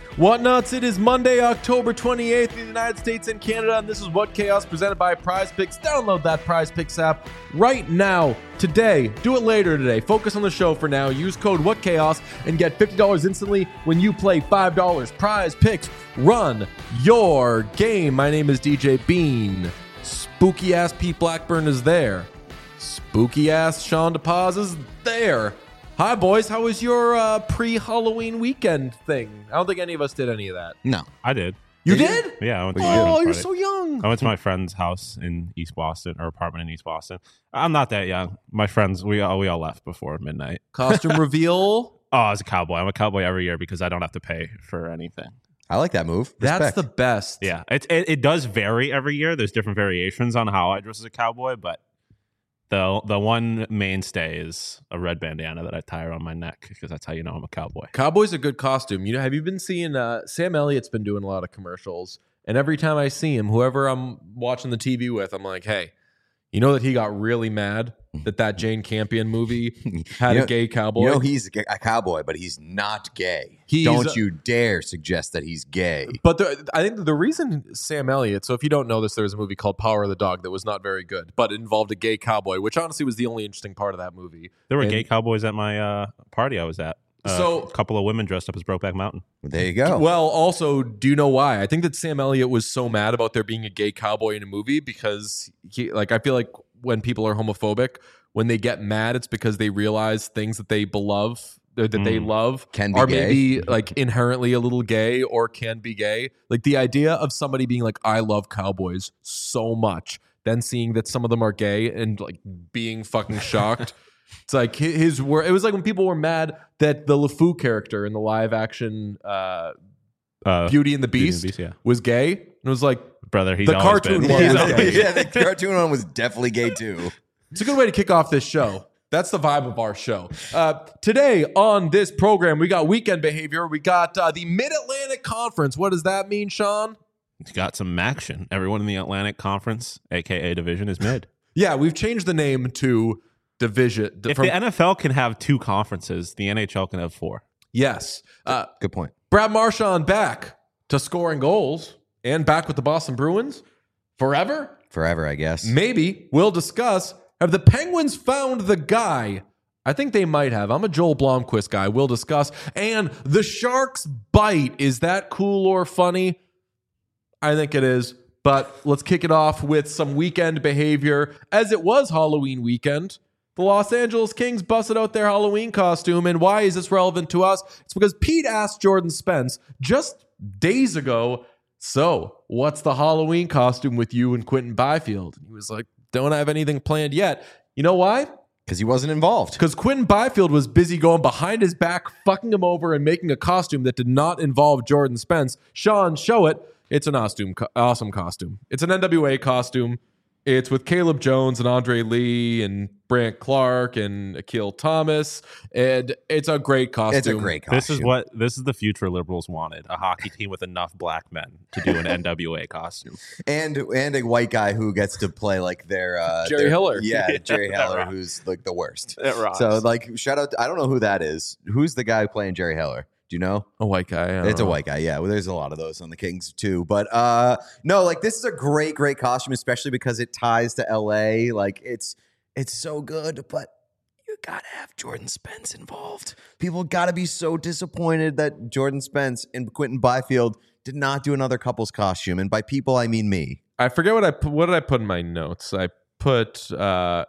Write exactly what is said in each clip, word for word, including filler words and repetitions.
What nuts? It is Monday, October twenty-eighth in the United States and Canada, and this is What Chaos presented by Prize Picks. Download that Prize Picks app right now, today. Do it later today. Focus on the show for now. Use code What Chaos and get fifty dollars instantly when you play five dollars. Prize Picks, run your game. My name is D J Bean. Spooky ass Pete Blackburn is there. Spooky ass Sean DePaz is there. Hi, boys. How was your uh, pre-Halloween weekend thing? I don't think any of us did any of that. No. I did. You Did did? Yeah, I went to my Oh, friend's you're party. so young. I went to my friend's house in East Boston, or apartment in East Boston. I'm not that young. My friends, we all we all left before midnight. Costume reveal. Oh, I was a cowboy. I'm a cowboy every year because I don't have to pay for anything. I like that move. That's Respect. the best. Yeah, it, it it does vary every year. There's different variations on how I dress as a cowboy, but the the one mainstay is a red bandana that I tie around my neck because that's how you know I'm a cowboy. Cowboy's a good costume. You know, have you been seeing uh, Sam Elliott's been doing a lot of commercials, and every time I see him, whoever I'm watching the T V with, I'm like, hey, you know that he got really mad that that Jane Campion movie had You know- a gay cowboy? You know he's a cowboy, but he's not gay. He's don't a- you dare suggest that he's gay. But the, I think the reason Sam Elliott, so if you don't know this, there was a movie called Power of the Dog that was not very good, but it involved a gay cowboy, which honestly was the only interesting part of that movie. There were And- gay cowboys at my uh, party I was at. Uh, So- a couple of women dressed up as Brokeback Mountain. There you go. Well, also, do you know why? I think that Sam Elliott was so mad about there being a gay cowboy in a movie because he, like, I feel like when people are homophobic, when they get mad, it's because they realize things that they belove, that that they Mm. love, Can be are gay. maybe like inherently a little gay or can be gay. Like the idea of somebody being like, I love cowboys so much, then seeing that some of them are gay and like being fucking shocked. It's like hi- his word. It was like when people were mad that the LeFou character in the live action uh, Uh, Beauty and the Beauty and Beast, the Beast, yeah. was gay. And it was like, Brother, he's The always cartoon been. one He's was always- gay. yeah, the cartoon one was definitely gay too. it's a good way to kick off this show. That's the vibe of our show. Uh, today on this program, we got weekend behavior. We got uh, the Mid-Atlantic Conference. What does that mean, Sean? He's got some action. Everyone in the Atlantic Conference, a k a Division, is mid. Yeah, we've changed the name to Division. If from- the N F L can have two conferences, the N H L can have four. yes. Uh, Good point. Brad Marchand back to scoring goals and back with the Boston Bruins forever? Forever, I guess. Maybe. We'll discuss. Have the Penguins found the guy? I think they might have. I'm a Joel Blomqvist guy. We'll discuss. And the Sharks bite. Is that cool or funny? I think it is. But let's kick it off with some weekend behavior. As it was Halloween weekend, the Los Angeles Kings busted out their Halloween costume. And why is this relevant to us? It's because Pete asked Jordan Spence just days ago, so what's the Halloween costume with you and Quentin Byfield? And he was like, don't have anything planned yet. You know why? Because he wasn't involved. Because Quentin Byfield was busy going behind his back, fucking him over, and making a costume that did not involve Jordan Spence. Sean, show it. It's an awesome, awesome costume. It's an N W A costume. It's with Caleb Jones and Andre Lee and Brant Clark and Akil Thomas. And it's a great costume. It's a great costume. This is what this is the future liberals wanted: a hockey team with enough black men to do an N W A costume. and and a white guy who gets to play like their uh, Jerry their- Hiller. Yeah, Jerry That Heller, rocks. who's like the worst. It rocks. So like, shout out. To, I don't know who that is. Who's the guy playing Jerry Heller? Do you know? A white guy. I don't It's a know. white guy, yeah. Well, there's a lot of those on the Kings too. But uh no, like this is a great, great costume, especially because it ties to L A. Like it's it's so good, but you gotta have Jordan Spence involved. People gotta be so disappointed that Jordan Spence and Quentin Byfield did not do another couple's costume. And by people, I mean me. I forget what I put. What did I put in my notes? I put, uh,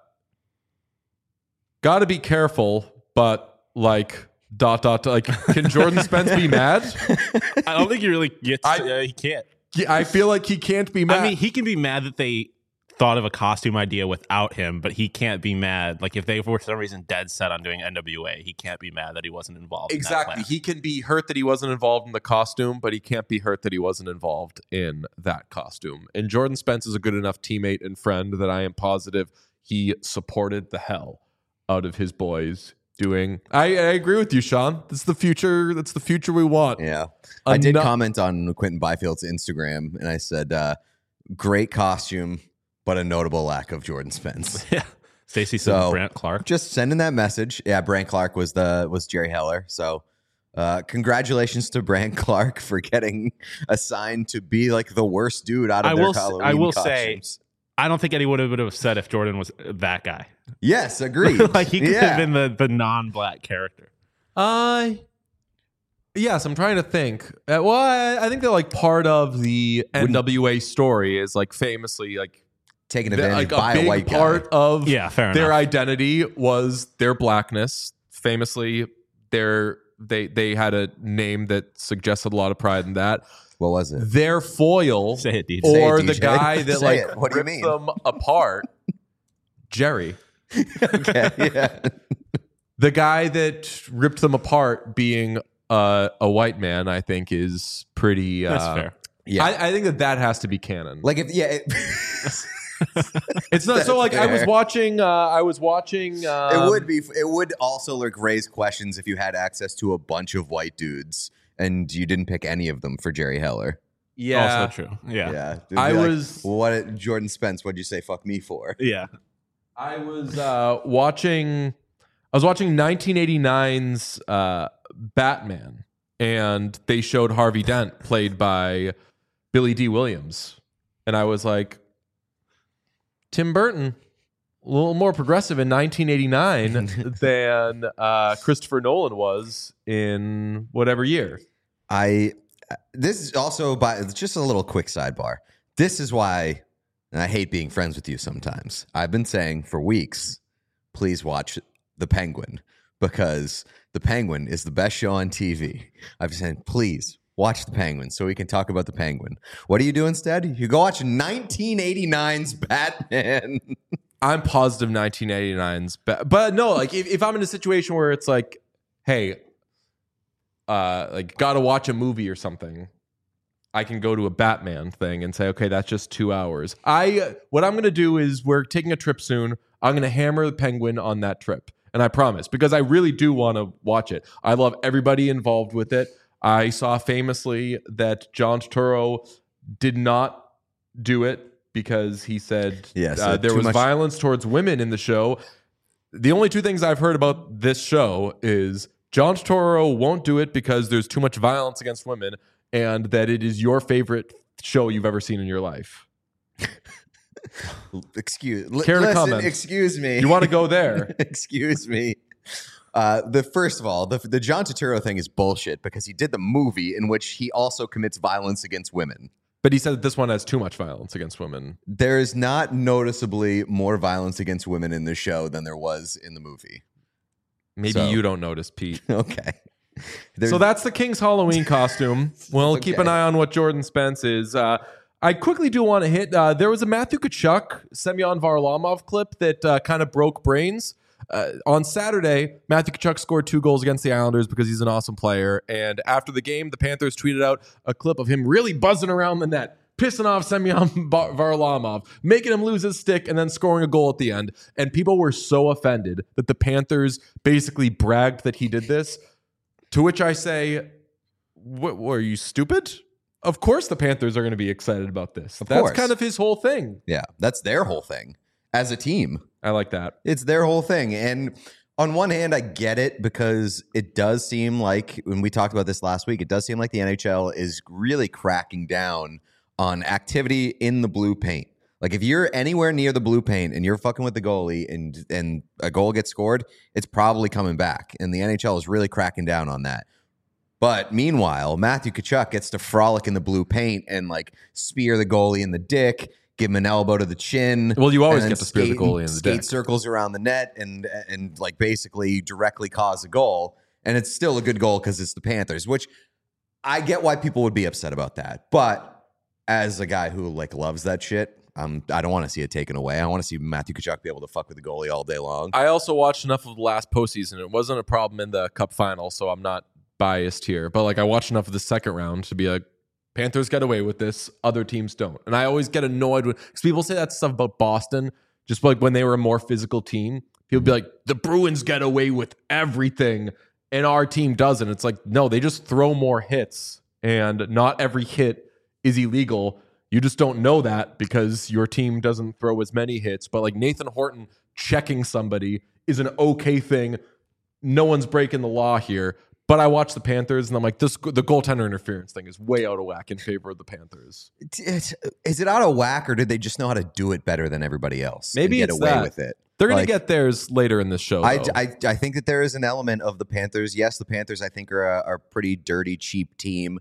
gotta be careful, but like, dot, dot, dot, like, can Jordan Spence be mad? I don't think he really gets. I- uh, he can't. Yeah, I feel like he can't be mad. I mean, he can be mad that they thought of a costume idea without him, but he can't be mad. Like if they were for some reason dead set on doing N W A, he can't be mad that he wasn't involved. Exactly. In that plan. He can be hurt that he wasn't involved in the costume, but he can't be hurt that he wasn't involved in that costume. And Jordan Spence is a good enough teammate and friend that I am positive he supported the hell out of his boys doing. I, I agree with you, Sean. That's the future. That's the future we want. Yeah. I did Eno- comment on Quentin Byfield's Instagram and I said, uh, great costume, but a notable lack of Jordan Spence. Yeah. Stacey said So- Brant Clark. Just sending that message. Yeah, Brant Clark was the was Jerry Heller. So Uh, congratulations to Brand Clark for getting assigned to be like the worst dude out of I their will. s- Halloween I will costumes. say, I don't think anyone would have said if Jordan was that guy. Yes, agreed. Like he could yeah. have been the the non-black character. Uh, yes, I'm trying to think. Uh, well, I, I think that like part of the N W A story is like famously like taken the- advantage like by a big a white part guy. of Yeah, fair their enough. identity was their blackness. Famously, their they they had a name that suggested a lot of pride in that. What was it? Their foil, Say it, D J. Say it, or D J. the guy that Say like it. What do you ripped mean? them apart, Jerry. Okay, yeah. The guy that ripped them apart, being uh, a white man, I think is pretty. Uh, That's fair. Yeah. I, I think that that has to be canon. Like if yeah, it, It's not so like I was fair. watching. Uh, I was watching. Um, it would be. It would also like raise questions if you had access to a bunch of white dudes and you didn't pick any of them for Jerry Heller. Yeah, Also true. Yeah. Yeah, It'd be I like, was- What Jordan Spence? What'd you say? Fuck me for? Yeah. I was uh, watching. I was watching nineteen eighty-nine's uh, Batman, and they showed Harvey Dent played by Billy D. Williams, and I was like, Tim Burton, a little more progressive in nineteen eighty-nine than uh, Christopher Nolan was in whatever year. I. This is also by just a little quick sidebar. This is why and I hate being friends with you sometimes. I've been saying for weeks, please watch The Penguin because The Penguin is the best show on T V. I've been saying, please watch The Penguin so we can talk about The Penguin. What do you do instead? You go watch nineteen eighty-nine's Batman. I'm positive nineteen eighty-nine's, but but no, like if, if I'm in a situation where it's like, hey, uh, like gotta watch a movie or something, I can go to a Batman thing and say, okay, that's just two hours. I what I'm gonna do is we're taking a trip soon. I'm gonna hammer The Penguin on that trip, and I promise because I really do want to watch it. I love everybody involved with it. I saw famously that John Turturro did not do it because he said Yes, uh, uh, there too was much- violence towards women in the show. The only two things I've heard about this show is John Turturro won't do it because there's too much violence against women, and that it is your favorite show you've ever seen in your life. Excuse, li- Care to listen, comment? excuse me. You want to go there? Excuse me. Uh, the first of all, the the John Turturro thing is bullshit because he did the movie in which he also commits violence against women. But he said that this one has too much violence against women. There is not noticeably more violence against women in this show than there was in the movie. Maybe So- you don't notice, Pete. Okay. There's- So that's the King's Halloween costume. We'll keep an Okay. eye on what Jordan Spence is. Uh, I quickly do want to hit. Uh, there was a Matthew Tkachuk, Semyon Varlamov clip that uh, kind of broke brains. Uh, on Saturday, Matthew Tkachuk scored two goals against the Islanders because he's an awesome player. And after the game, the Panthers tweeted out a clip of him really buzzing around the net, pissing off Semyon Bar- Varlamov, making him lose his stick, and then scoring a goal at the end. And people were so offended that the Panthers basically bragged that he did this. To which I say, what, were you stupid? Of course the Panthers are going to be excited about this. Of That's course. kind of his whole thing. yeah, that's their whole thing as a team. I like that. It's their whole thing. And on one hand, I get it because it does seem like, when we talked about this last week, it does seem like the N H L is really cracking down on activity in the blue paint. Like if you're anywhere near the blue paint and you're fucking with the goalie and and a goal gets scored, it's probably coming back. And the N H L is really cracking down on that. But meanwhile, Matthew Tkachuk gets to frolic in the blue paint and like spear the goalie in the dick, give him an elbow to the chin. Well, you always and then get to spear the skate- goalie in the skate dick. circles around the net and and like basically directly cause a goal. And it's still a good goal because it's the Panthers, which I get why people would be upset about that. But as a guy who like loves that shit, um, I don't want to see it taken away. I want to see Matthew Tkachuk be able to fuck with the goalie all day long. I also watched enough of the last postseason. It wasn't a problem in the Cup final, so I'm not biased here. But like I watched enough of the second round to be like, Panthers get away with this, other teams don't. And I always get annoyed when because people say that stuff about Boston, just like when they were a more physical team. People be like, the Bruins get away with everything, and our team doesn't. It's like, no, they just throw more hits, and not every hit is illegal. You just don't know that because your team doesn't throw as many hits. But like Nathan Horton checking somebody is an okay thing. No one's breaking the law here. But I watch the Panthers, and I'm like, this the goaltender interference thing is way out of whack in favor of the Panthers. It's, it's, is it out of whack, or did they just know how to do it better than everybody else? Maybe and get it's away that. with it. They're going Like, to get theirs later in this show. I, though. I, I think that there is an element of the Panthers. Yes, the Panthers, I think, are a, are a pretty dirty, cheap team.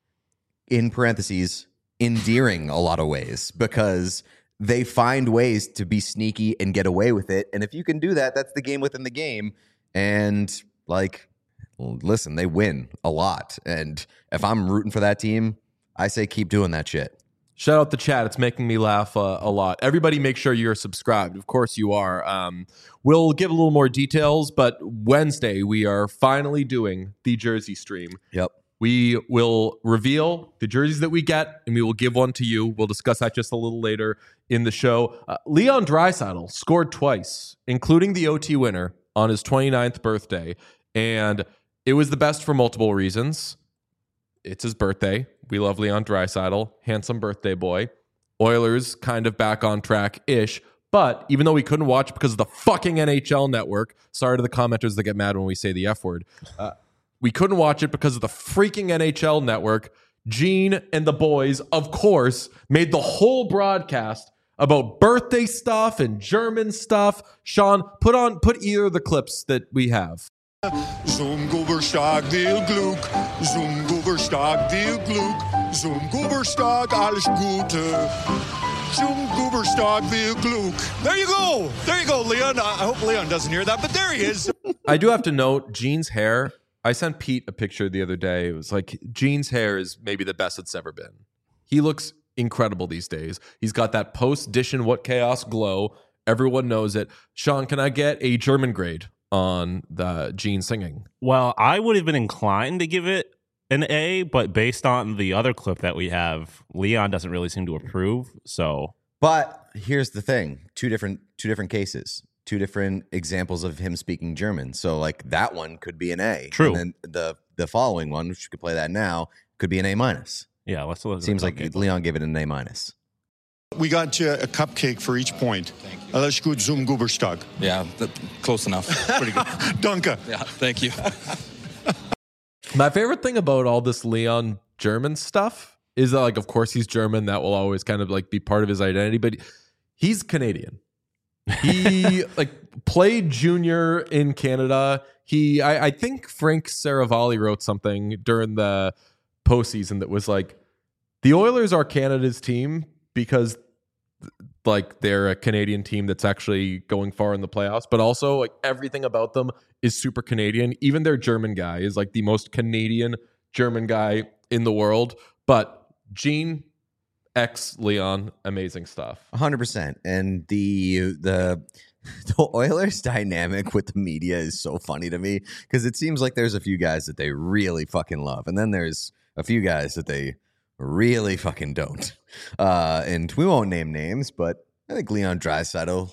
In parentheses, endearing a lot of ways because they find ways to be sneaky and get away with it. And if you can do that, that's the game within the game. And like, listen, they win a lot. And if I'm rooting for that team, I say keep doing that shit. Shout out the chat. It's making me laugh uh, a lot. Everybody make sure you're subscribed. Of course you are. Um, we'll give a little more details, but Wednesday we are finally doing the Jersey stream. Yep. We will reveal the jerseys that we get, and we will give one to you. We'll discuss that just a little later in the show. Uh, Leon Draisaitl scored twice, including the O T winner on his twenty-ninth birthday, and it was the best for multiple reasons. It's his birthday. We love Leon Draisaitl, handsome birthday boy. Oilers kind of back on track-ish, but even though we couldn't watch because of the fucking N H L network, sorry to the commenters that get mad when we say the F word, uh, we couldn't watch it because of the freaking N H L network. Gene and the boys, of course, made the whole broadcast about birthday stuff and German stuff. Sean, put on put either of the clips that we have. Zum Guberstag will Glück, zum Guberstag will Glück, zum Guberstag alles Gute, zum Guberstag will Glück. There you go, there you go, Leon. I hope Leon doesn't hear that, but there he is. I do have to note Gene's hair. I sent Pete a picture the other day. It was like Gene's hair is maybe the best it's ever been. He looks incredible these days. He's got that post-Dish and What Chaos glow. Everyone knows it. Sean, can I get a German grade on the Gene singing? Well, I would have been inclined to give it an A, but based on the other clip that we have, Leon doesn't really seem to approve. So, But here's the thing: two different two different cases, two different examples of him speaking German. So like that one could be an A. True. And then the the following one, which you could play that now, could be an A minus. yeah, let's look. at Seems the like cupcake. Leon gave it an A minus. We got you a cupcake for each point. Alles gut zum Guberstag. Yeah, th- close enough. Pretty good. Danke. Yeah, thank you. My favorite thing about all this Leon German stuff is that, like, of course he's German. That will always kind of like be part of his identity, but he's Canadian. He like played junior in Canada. He, I, I think Frank Saravalli wrote something during the postseason that was like, the Oilers are Canada's team because like they're a Canadian team that's actually going far in the playoffs, but also like everything about them is super Canadian. Even their German guy is like the most Canadian German guy in the world. But Gene, ex Leon, amazing stuff. one hundred percent. And the the the Oilers dynamic with the media is so funny to me because it seems like there's a few guys that they really fucking love, and then there's a few guys that they really fucking don't. Uh, and we won't name names, but I think Leon Draisaitl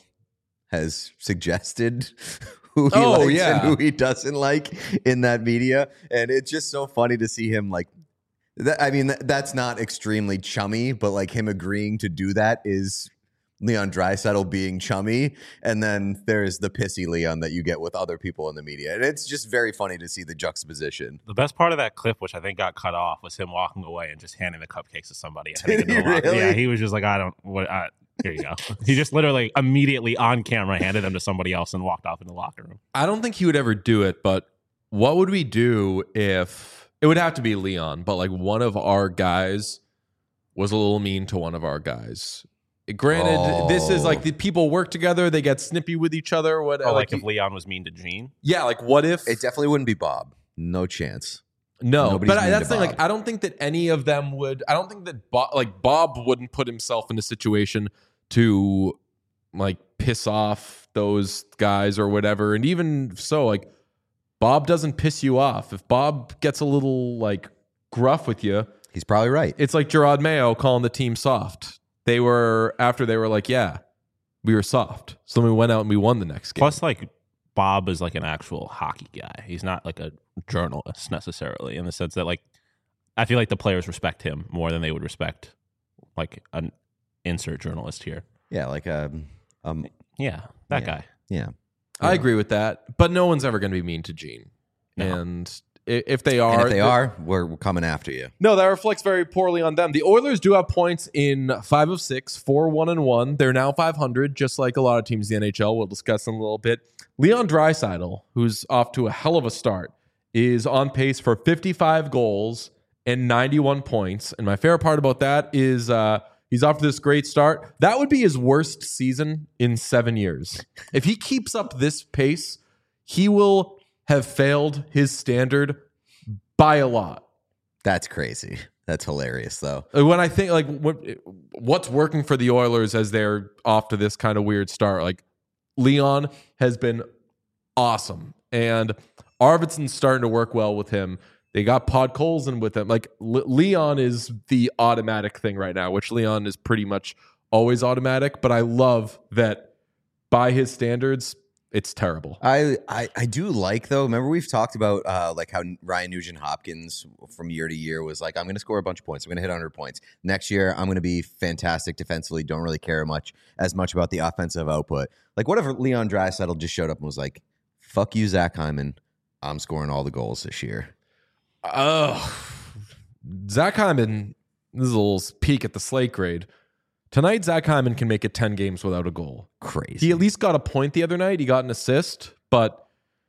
has suggested who he Oh, likes yeah. and who he doesn't like in that media, and it's just so funny to see him like. That, I mean, that, that's not extremely chummy, but like him agreeing to do that is Leon Draisaitl being chummy, and then there's the pissy Leon that you get with other people in the media, and it's just very funny to see the juxtaposition. The best part of that clip, which I think got cut off, was him walking away and just handing the cupcakes to somebody. I Did think in he the locker- really? Yeah, he was just like, I don't. What? I, here you go. He just literally immediately on camera handed them to somebody else and walked off in the locker room. I don't think he would ever do it, but what would we do if it would have to be Leon, but like one of our guys was a little mean to one of our guys? Granted, Oh. this is like the people work together, they get snippy with each other. What Or like like, if Leon was mean to Gene. yeah, like what if It definitely wouldn't be Bob. No chance. no, Nobody's but I, mean that's to the thing. Like, Bob. I don't think that any of them would. I don't think that Bob, like Bob, wouldn't put himself in a situation to like piss off those guys or whatever. And even so, like Bob doesn't piss you off. If Bob gets a little like gruff with you, He's probably right. it's like Gerard Mayo calling the team soft. They were after they were like, yeah, we were soft. So then we went out and we won the next game. Plus, like Bob is like an actual hockey guy. He's not like a journalist necessarily, in the sense that like I feel like the players respect him more than they would respect like an insert journalist here. Yeah, like um, um, Yeah, that Yeah. guy. yeah. I agree with that, but no one's ever going to be mean to Gene. No. And I- If they are, And if they th- are, we're, we're coming after you. No, that reflects very poorly on them. The Oilers do have points in five of six, four, one, and one. They're now five hundred, just like a lot of teams in the N H L. We'll discuss in a little bit. Leon Draisaitl, who's off to a hell of a start, is on pace for fifty-five goals and ninety-one points. And my favorite part about that is uh, he's off to this great start. That would be his worst season in seven years. If he keeps up this pace, he will have failed his standard by a lot. That's crazy. That's hilarious, though. When I think like what what's working for the Oilers as they're off to this kind of weird start, like Leon has been awesome, and Arvidsson's starting to work well with him. They got Podkolzin with him. Like Le- Leon is the automatic thing right now, which Leon is pretty much always automatic. But I love that by his standards, it's terrible. I, I I do like though. Remember we've talked about uh, like how Ryan Nugent Hopkins from year to year was like, I'm going to score a bunch of points. I'm going to hit one hundred points next year. I'm going to be fantastic defensively. Don't really care much as much about the offensive output. Like whatever. Leon Draisaitl just showed up and was like, "Fuck you, Zach Hyman. I'm scoring all the goals this year." Oh, Zach Hyman. This is a little peek at the slate grade. Tonight, Zach Hyman can make it ten games without a goal. Crazy. He at least got a point the other night. He got an assist, but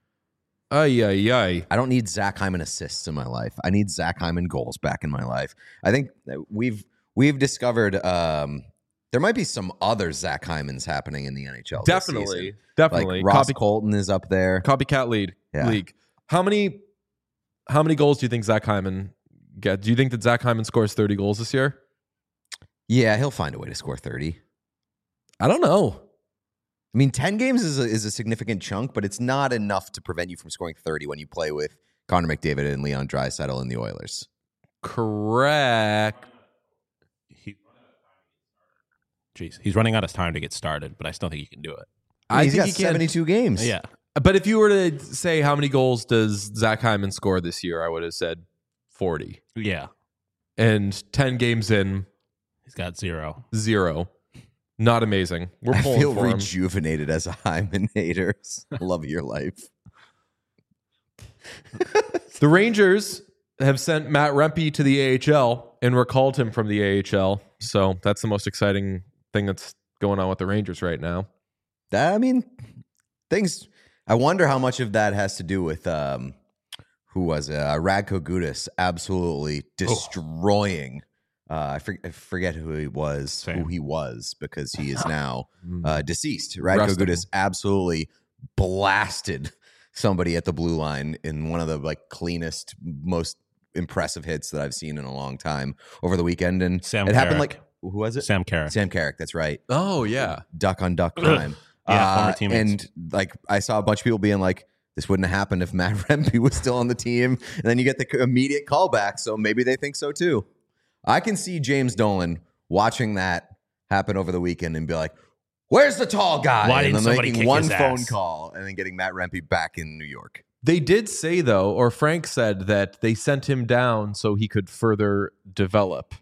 ay, ay, ay. I don't need Zach Hyman assists in my life. I need Zach Hyman goals back in my life. I think that we've we've discovered um, there might be some other Zach Hymans happening in the N H L. this Definitely. season. Definitely. Like Ross Copy, Colton is up there. copycat lead Yeah. league. How many how many goals do you think Zach Hyman get? Do you think that Zach Hyman scores thirty goals this year? Yeah, he'll find a way to score thirty. I don't know. I mean, ten games is a, is a significant chunk, but it's not enough to prevent you from scoring thirty when you play with Connor McDavid and Leon Draisaitl in the Oilers. Correct. He, jeez, he's running out of time to get started, but I still think he can do it. I He's think got he can. seventy-two games. Yeah, But if you were to say how many goals does Zach Hyman score this year, I would have said forty. yeah, And ten games in, he's got zero. zero. Not amazing. We're I pulling feel for him. rejuvenated as a Hyman hater. Love your life. The Rangers have sent Matt Rempe to the A H L and recalled him from the A H L. So that's the most exciting thing that's going on with the Rangers right now. That, I mean, things. I wonder how much of that has to do with um, who was it? Uh, Radko Gudas absolutely destroying. Uh, I, for, I forget who he was, Same. who he was, because he is now uh, deceased. Radko Rest him. Gudas absolutely blasted somebody at the blue line in one of the like cleanest, most impressive hits that I've seen in a long time over the weekend. And Sam it happened Carrick. like who was it? Sam Carrick. Sam Carrick. That's right. Oh, yeah. Duck on duck crime. Yeah, former Uh, teammates. and like I saw a bunch of people being like, this wouldn't have happened if Matt Rempe was still on the team. And then you get the immediate callback. So maybe they think so too. I can see James Dolan watching that happen over the weekend and be like, where's the tall guy? Why and didn't then somebody making kick one his phone ass? call and then getting Matt Rempe back in New York. They did say, though, or Frank said that they sent him down so he could further develop.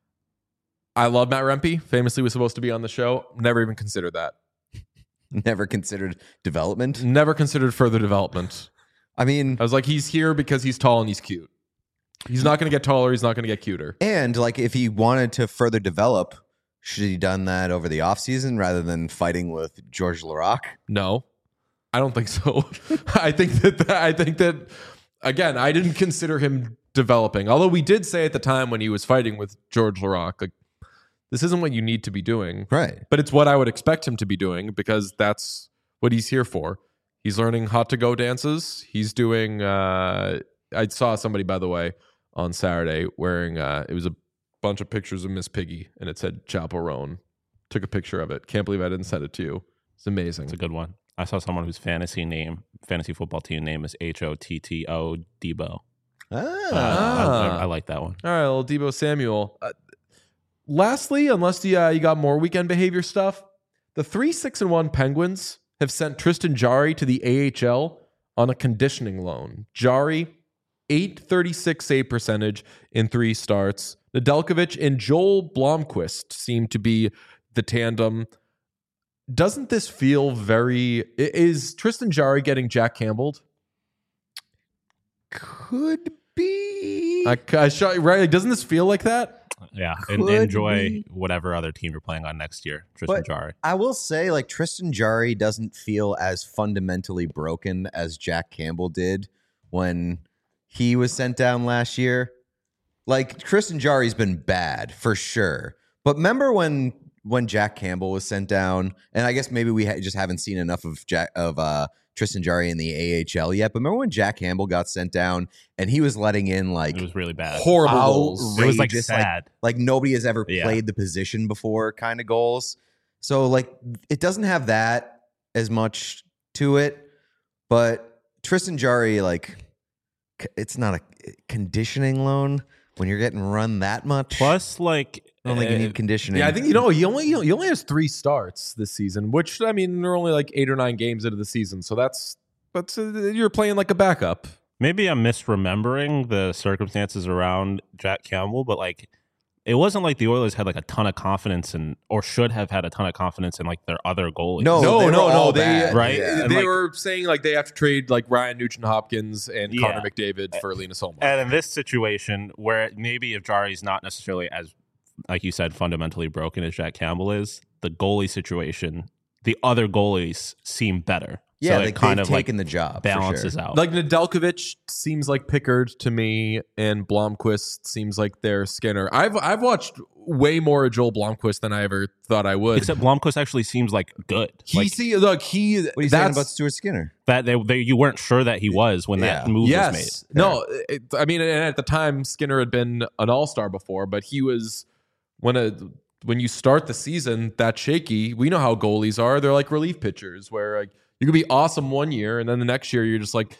I love Matt Rempe. Famously was supposed to be on the show. Never even considered that. Never considered development. Never considered further development. I mean, I was like, he's here because he's tall and he's cute. He's not going to get taller. He's not going to get cuter. and like if he wanted to further develop, should he done that over the offseason rather than fighting with George Larac? No, I don't think so. I think that, I think that, again, I didn't consider him developing. Although we did say at the time when he was fighting with George Larac, like, this isn't what you need to be doing. Right. But it's what I would expect him to be doing because that's what he's here for. He's learning hot to go dances. He's doing, uh, I saw somebody, by the way, on Saturday wearing, uh, it was a bunch of pictures of Miss Piggy and it said Chaperone. Took a picture of it. Can't believe I didn't send it to you. It's amazing. It's a good one. I saw someone whose fantasy name, fantasy football team name is H O T T O Debo. Ah. Uh, I, I, I like that one. All right, little Debo Samuel. Uh, lastly, unless you, uh, you got more weekend behavior stuff, the three six and one Penguins have sent Tristan Jarry to the A H L on a conditioning loan. Jarry, eight thirty-six save percentage in three starts. Nedeljkovic and Joel Blomqvist seem to be the tandem. Doesn't this feel very... Is Tristan Jarry getting Jack Campbelled? Could be. I, I shot right. Like, doesn't this feel like that? Yeah, and Could enjoy be. whatever other team you're playing on next year. Tristan But Jarry. I will say, like, Tristan Jarry doesn't feel as fundamentally broken as Jack Campbell did when he was sent down last year. Like, Tristan Jarry's been bad for sure. But remember when when Jack Campbell was sent down, and I guess maybe we ha- just haven't seen enough of Jack of uh, Tristan Jarry in the A H L yet. But remember when Jack Campbell got sent down and he was letting in like It was really bad. Horrible goals. outrageous, It was like like, sad. like nobody has ever Yeah. played the position before kind of goals. So like it doesn't have that as much to it, but Tristan Jarry, like c- it's not a conditioning loan when you're getting run that much. Plus, like, I don't think you uh, need conditioning. Yeah, I think you know he only he only has three starts this season, which I mean they're only like eight or nine games into the season, so that's that's uh, you're playing like a backup. maybe I'm misremembering the circumstances around Jack Campbell, but like, it wasn't like the Oilers had like a ton of confidence in, or should have had a ton of confidence in like their other goalies. No, no, they were no, no. all They bad. right? Yeah. And, they like- were saying like they have to trade like Ryan Nugent Hopkins and Yeah. Connor McDavid for Linus Ullmark. And in this situation, where maybe if Jarry's not necessarily as, like you said, fundamentally broken as Jack Campbell is, the goalie situation, the other goalies seem better. Yeah, so they, it kind they've of like taken the job. for balances sure. out. Like Nedeljkovic seems like Pickard to me, and Blomqvist seems like their Skinner. I've I've watched way more of Joel Blomqvist than I ever thought I would. Except Blomqvist actually seems like good. he like, see look he What are you saying that's about Stuart Skinner? that they, they you weren't sure that he was when that Yeah. move yes was made. no it, I mean, and at the time Skinner had been an all star before, but he was when a when you start the season that shaky. We know how goalies are; they're like relief pitchers where like you could be awesome one year and then the next year you're just like,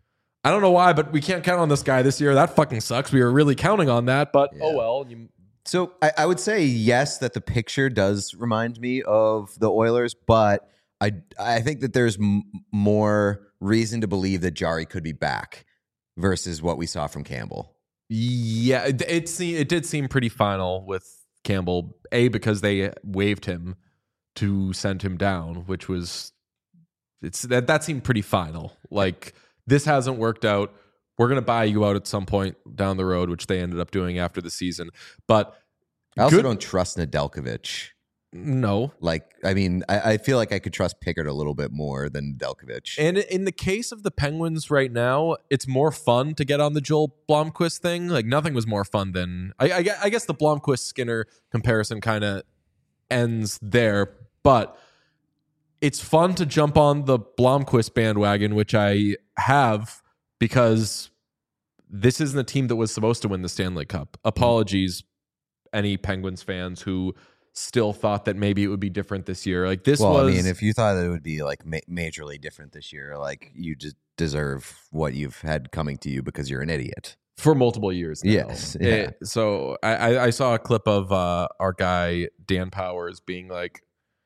I don't know why, but we can't count on this guy this year. That fucking sucks. We were really counting on that, but Yeah. oh well. You, So I, I would say yes, that the picture does remind me of the Oilers, but I I think that there's m- more reason to believe that Jarry could be back versus what we saw from Campbell. yeah, it it, se- it did seem pretty final with Campbell. A, because they waived him to send him down, which was it's that that seemed pretty final. Like this hasn't worked out. We're gonna buy you out at some point down the road, which they ended up doing after the season. But I also good- don't trust Nedeljkovic. no. Like, I mean, I, I feel like I could trust Pickard a little bit more than Nedeljkovic. And in the case of the Penguins right now, it's more fun to get on the Joel Blomqvist thing. Like nothing was more fun than I, I, gue- I guess the Blomqvist Skinner comparison kind of ends there, but it's fun to jump on the Blomqvist bandwagon, which I have because this isn't a team that was supposed to win the Stanley Cup. Apologies, any Penguins fans who still thought that maybe it would be different this year. Like this well, was. I mean, if you thought that it would be like ma- majorly different this year, like you just deserve what you've had coming to you because you're an idiot. for multiple years now. Yes, yeah. It- so I, I, I saw a clip of uh, our guy Dan Powers being like,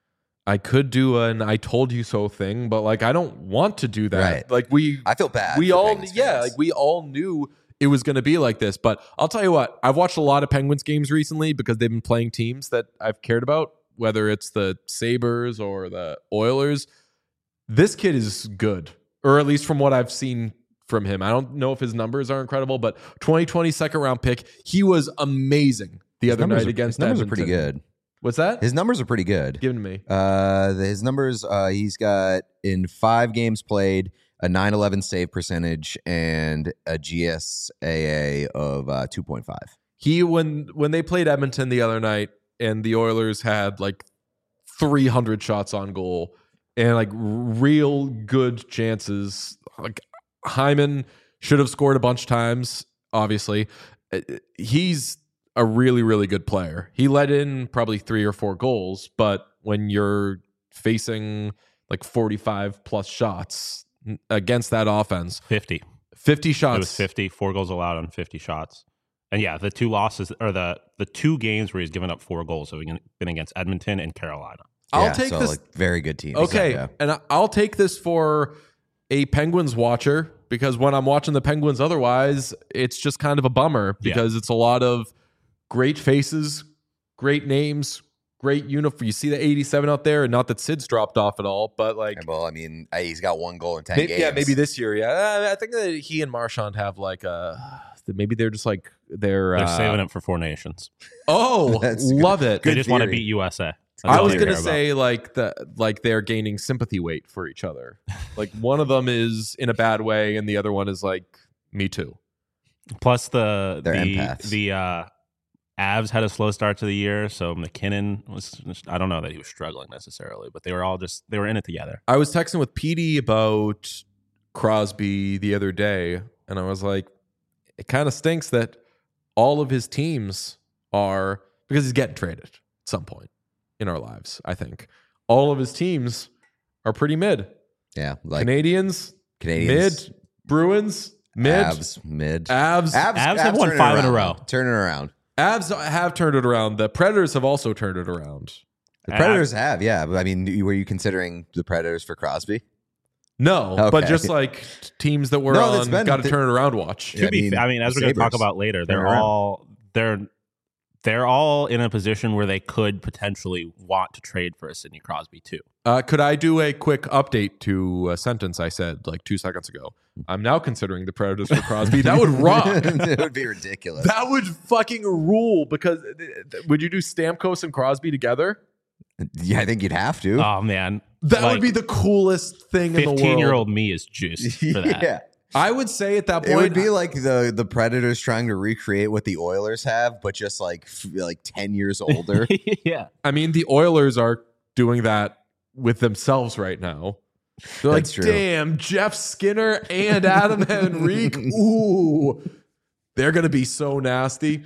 I could do an I told you so thing, but like I don't want to do that. Right. Like we I feel bad. we for all Penguins yeah, fans. like we all knew it was going to be like this. But I'll tell you what, I've watched a lot of Penguins games recently because they've been playing teams that I've cared about, whether it's the Sabres or the Oilers. This kid is good, or at least from what I've seen from him. I don't know if his numbers are incredible, but twenty twenty second round pick, he was amazing the His other numbers night are- against his numbers are Edmonton. pretty good. What's that? His numbers are pretty good. Give it to me. Uh, the- his numbers, uh, he's got in five games played a nine eleven save percentage and a G S A A of uh, two point five. He when when they played Edmonton the other night and the Oilers had like three hundred shots on goal and like real good chances. Like Hyman should have scored a bunch of times, obviously. Uh, He's a really, really good player. He let in probably three or four goals, but when you're facing like forty-five plus shots against that offense, fifty. fifty shots. It was fifty, four goals allowed on fifty shots. And yeah, the two losses or the the two games where he's given up four goals have been against Edmonton and Carolina. I'll Yeah, take so, this. like, very good teams. Okay, Yeah. and I- I'll take this for a Penguins watcher because when I'm watching the Penguins otherwise, it's just kind of a bummer because it's a lot of great faces, great names, great uniform. You see the eighty-seven out there, and not that Sid's dropped off at all, but like, Well, I mean, I- he's got one goal in ten maybe, games. yeah, maybe this year. Yeah, I think that he and Marchand have like a. Maybe they're just like they're They're uh, saving it for Four Nations. Oh, That's good. love it. They Good just want to theory. beat U S A. That's I all was they gonna care about. say like the like they're gaining sympathy weight for each other. Like one of them is in a bad way, and the other one is like me too. Plus the They're the empaths. the uh, Avs had a slow start to the year, so McKinnon was. I don't know that he was struggling necessarily, but they were all just they were in it together. I was texting with Petey about Crosby the other day, and I was like, it kind of stinks that all of his teams are because he's getting traded at some point in our lives. I think all of his teams are pretty mid. Yeah, like Canadians, Canadians, mid. Bruins, mid. Avs, mid. Avs. Avs, Avs have won turning five in a around, row. though. Turning around. Avs have turned it around. The Predators have also turned it around. The Predators have, yeah. But I mean, you- were you considering the Predators for Crosby? No, but Okay. just like teams that were No, that's on been- got to th- turn it around watch. Yeah, To be, I mean, I mean, as the we're going to talk Sabres about later, they're turn around. all they're they're all in a position where they could potentially want to trade for a Sidney Crosby too. Uh, could I do a quick update to a sentence I said like two seconds ago? I'm now considering the Predators for Crosby. That would rock. It would be ridiculous. That would fucking rule. Because would you do Stamkos and Crosby together? Yeah, I think you'd have to. Oh man, That Like, would be the coolest thing in the world. fifteen-year-old me is juiced for that. yeah. I would say at that point, It would be like the the Predators trying to recreate what the Oilers have, but just like f- like ten years older. yeah. I mean, the Oilers are doing that with themselves right now. They're like, That's true. damn, Jeff Skinner and Adam Henrique. Ooh, they're gonna be so nasty.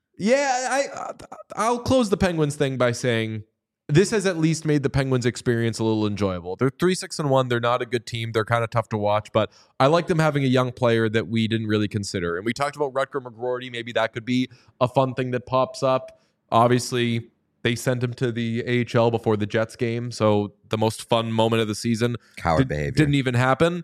Yeah, I I'll close the Penguins thing by saying this has at least made the Penguins experience a little enjoyable. They're three six and one. They're not a good team. They're kind of tough to watch, but I like them having a young player that we didn't really consider. And we talked about Rutger McGroarty. Maybe that could be a fun thing that pops up. Obviously, they sent him to the A H L before the Jets game, so the most fun moment of the season Coward did- behavior. didn't even happen.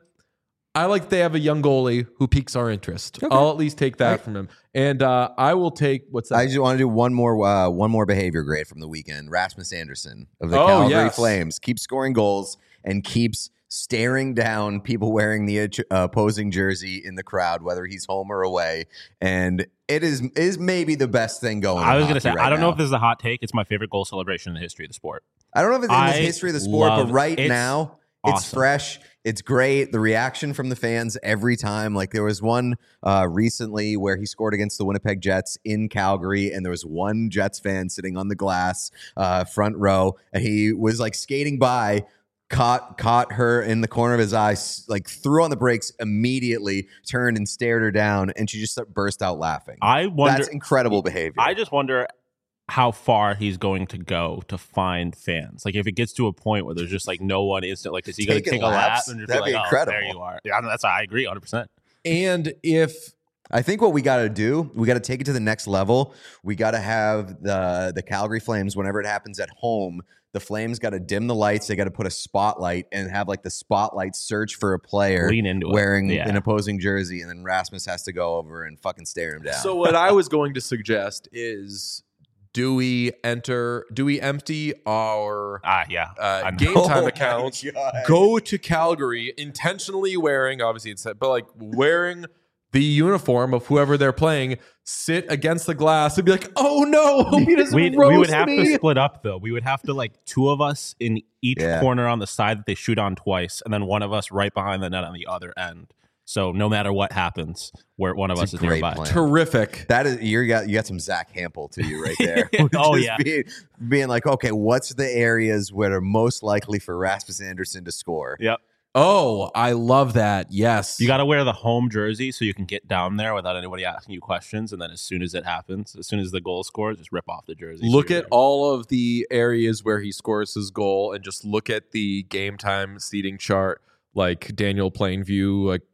I like they have a young goalie who piques our interest. I'll at least take that Right. from him, and uh, I will take what's that? I just want to do one more uh, one more behavior grade from the weekend. Rasmus Anderson of the Oh, Calgary yes. Flames keeps scoring goals and keeps staring down people wearing the uh, opposing jersey in the crowd, whether he's home or away. And it is is maybe the best thing going. I in was going to hockey say, right I don't know now. if this is a hot take. It's my favorite goal celebration in the history of the sport. I don't know if it's in the I history of the sport, but love- right it's now it's awesome. fresh. It's great. The reaction from the fans every time. Like there was one uh, recently where he scored against the Winnipeg Jets in Calgary, and there was one Jets fan sitting on the glass, uh, front row, and he was like skating by, caught caught her in the corner of his eye, s- like threw on the brakes immediately, turned and stared her down, and she just burst out laughing. I wonder. That's incredible behavior. I just wonder how far he's going to go to find fans. Like if it gets to a point where there's just like no one instant, like is he going to Taking take a lap laps? and just That'd be be like, incredible. oh, there you are. Yeah, that's I agree, one hundred percent. and if I think what we got to do, we got to take it to the next level. We got to have the the Calgary Flames, whenever it happens at home, the Flames got to dim the lights. They got to put a spotlight and have like the spotlight search for a player Lean into it. wearing Yeah. an opposing jersey, and then Rasmus has to go over and fucking stare him down. so, what I was going to suggest is, do we enter? Do we empty our Ah, yeah. uh, I know. game Oh time my accounts? God. Go to Calgary intentionally wearing, obviously it's but like wearing the uniform of whoever they're playing, sit against the glass and be like, "Oh no, he just We'd, roast we would have me." to split up though. We would have to like two of us in each Yeah. corner on the side that they shoot on twice, and then one of us right behind the net on the other end. So no matter what happens, where one of It's us a is great nearby. plan. Terrific. That is you got you got some Zach Hampel to you right there. Oh, Just yeah. being, being like, okay, what's the areas where are most likely for Rasmus Anderson to score? Yep. Oh, I love that. Yes. You got to wear the home jersey so you can get down there without anybody asking you questions. And then as soon as it happens, as soon as the goal scores, just rip off the jersey. Look So you're at all of the areas where he scores his goal and just look at the game time seating chart, like Daniel Plainview. Like,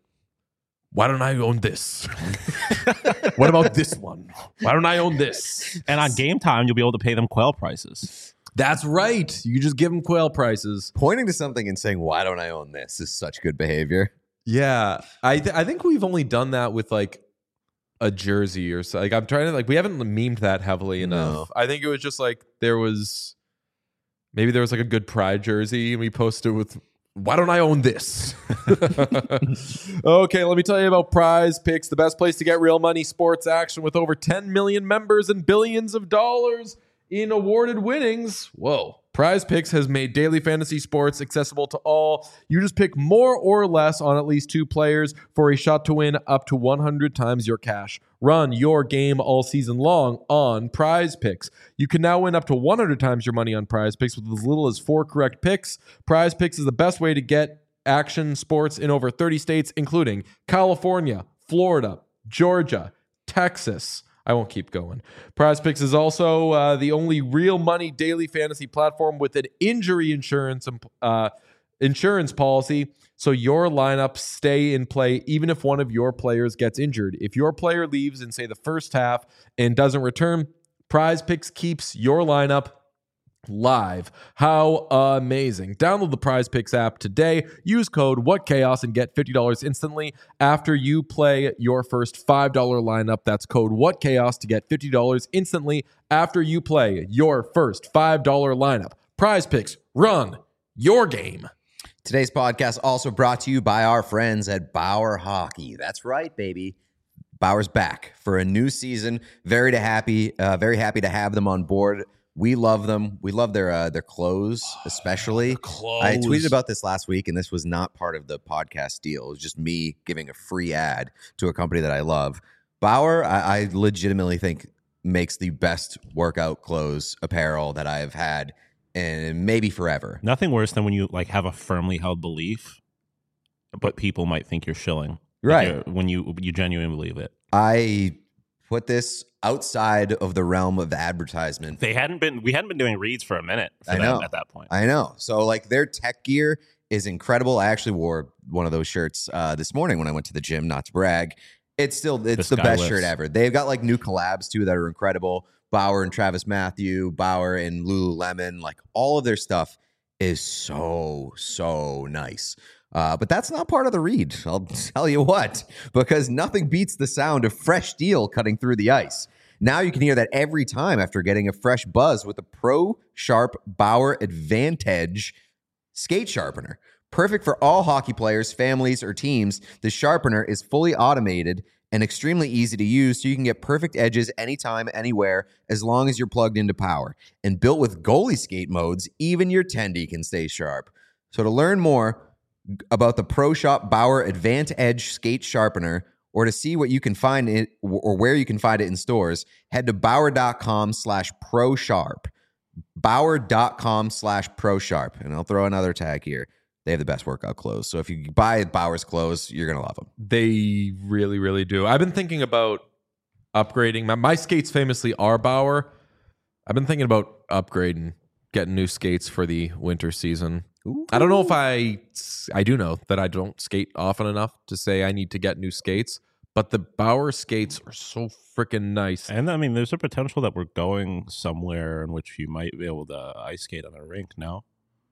why don't I own this? What about this one? Why don't I own this? there. And on game time, you'll be able to pay them quail prices. That's right. You just give him quail prices. Pointing to something and saying, "Why don't I own this?" is such good behavior. Yeah, I th- I think we've only done that with like a jersey or so. Like I'm trying to like we haven't memed that heavily enough. No. I think it was just like there was Maybe there was like a good Pride jersey and we posted with, why don't I own this? Okay, let me tell you about Prize Picks, the best place to get real money sports action with over ten million members and billions of dollars in awarded winnings. Whoa. Prize Picks has made daily fantasy sports accessible to all. You just pick more or less on at least two players for a shot to win up to one hundred times your cash. Run your game all season long on Prize Picks. You can now win up to one hundred times your money on Prize Picks with as little as four correct picks. Prize Picks is the best way to get action sports in over thirty states, including California, Florida, Georgia, Texas. I won't keep going. Prize Picks is also uh, the only real money daily fantasy platform with an injury insurance uh, insurance policy, so your lineups stay in play even if one of your players gets injured. If your player leaves in, say, the first half and doesn't return, Prize Picks keeps your lineup live. How amazing. Download the Prize Picks app today. Use code WhatChaos and get fifty dollars instantly after you play your first five dollar lineup. That's code WhatChaos to get fifty dollars instantly after you play your first five dollar lineup. Prize Picks, run your game. Today's podcast also brought to you by our friends at Bauer Hockey. That's right, baby. Bauer's back for a new season. Very to happy, uh, very happy to have them on board. We love them. We love their uh, their clothes, especially. Clothes. I tweeted about this last week, and this was not part of the podcast deal. It was just me giving a free ad to a company that I love. Bauer, I, I legitimately think, makes the best workout clothes apparel that I've had in maybe forever. Nothing worse than when you like have a firmly held belief, but people might think you're shilling. Like, Right. you're- when you you genuinely believe it. I put this outside of the realm of advertisement. They hadn't been. We hadn't been doing reads for a minute. For I them know. at that point. I know. So like their tech gear is incredible. I actually wore one of those shirts uh, this morning when I went to the gym, not to brag. It's still, it's The the, best Skylifts. shirt ever. They've got like new collabs too that are incredible. Bauer and Travis Matthew, Bauer and Lululemon, like all of their stuff is so, so nice. Uh, but that's not part of the read. I'll tell you what, because nothing beats the sound of fresh steel cutting through the ice. Now you can hear that every time after getting a fresh buzz with the Pro Sharp Bauer Advantage skate sharpener. Perfect for all hockey players, families, or teams, the sharpener is fully automated and extremely easy to use, so you can get perfect edges anytime, anywhere, as long as you're plugged into power. And built with goalie skate modes, even your tendy can stay sharp. So to learn more about the Pro Shop Bauer Advantage skate sharpener, or to see what you can find it or where you can find it in stores, head to bauer.com slash pro sharp. Bauer.com slash pro sharp. And I'll throw another tag here. They have the best workout clothes. So if you buy Bauer's clothes, you're going to love them. They really, really do. I've been thinking about upgrading. My, my skates famously are Bauer. I've been thinking about upgrading, getting new skates for the winter season. Ooh. I don't know if I, I do know that I don't skate often enough to say I need to get new skates, but the Bauer skates are so freaking nice. And I mean, there's a potential that we're going somewhere in which you might be able to ice skate on a rink now.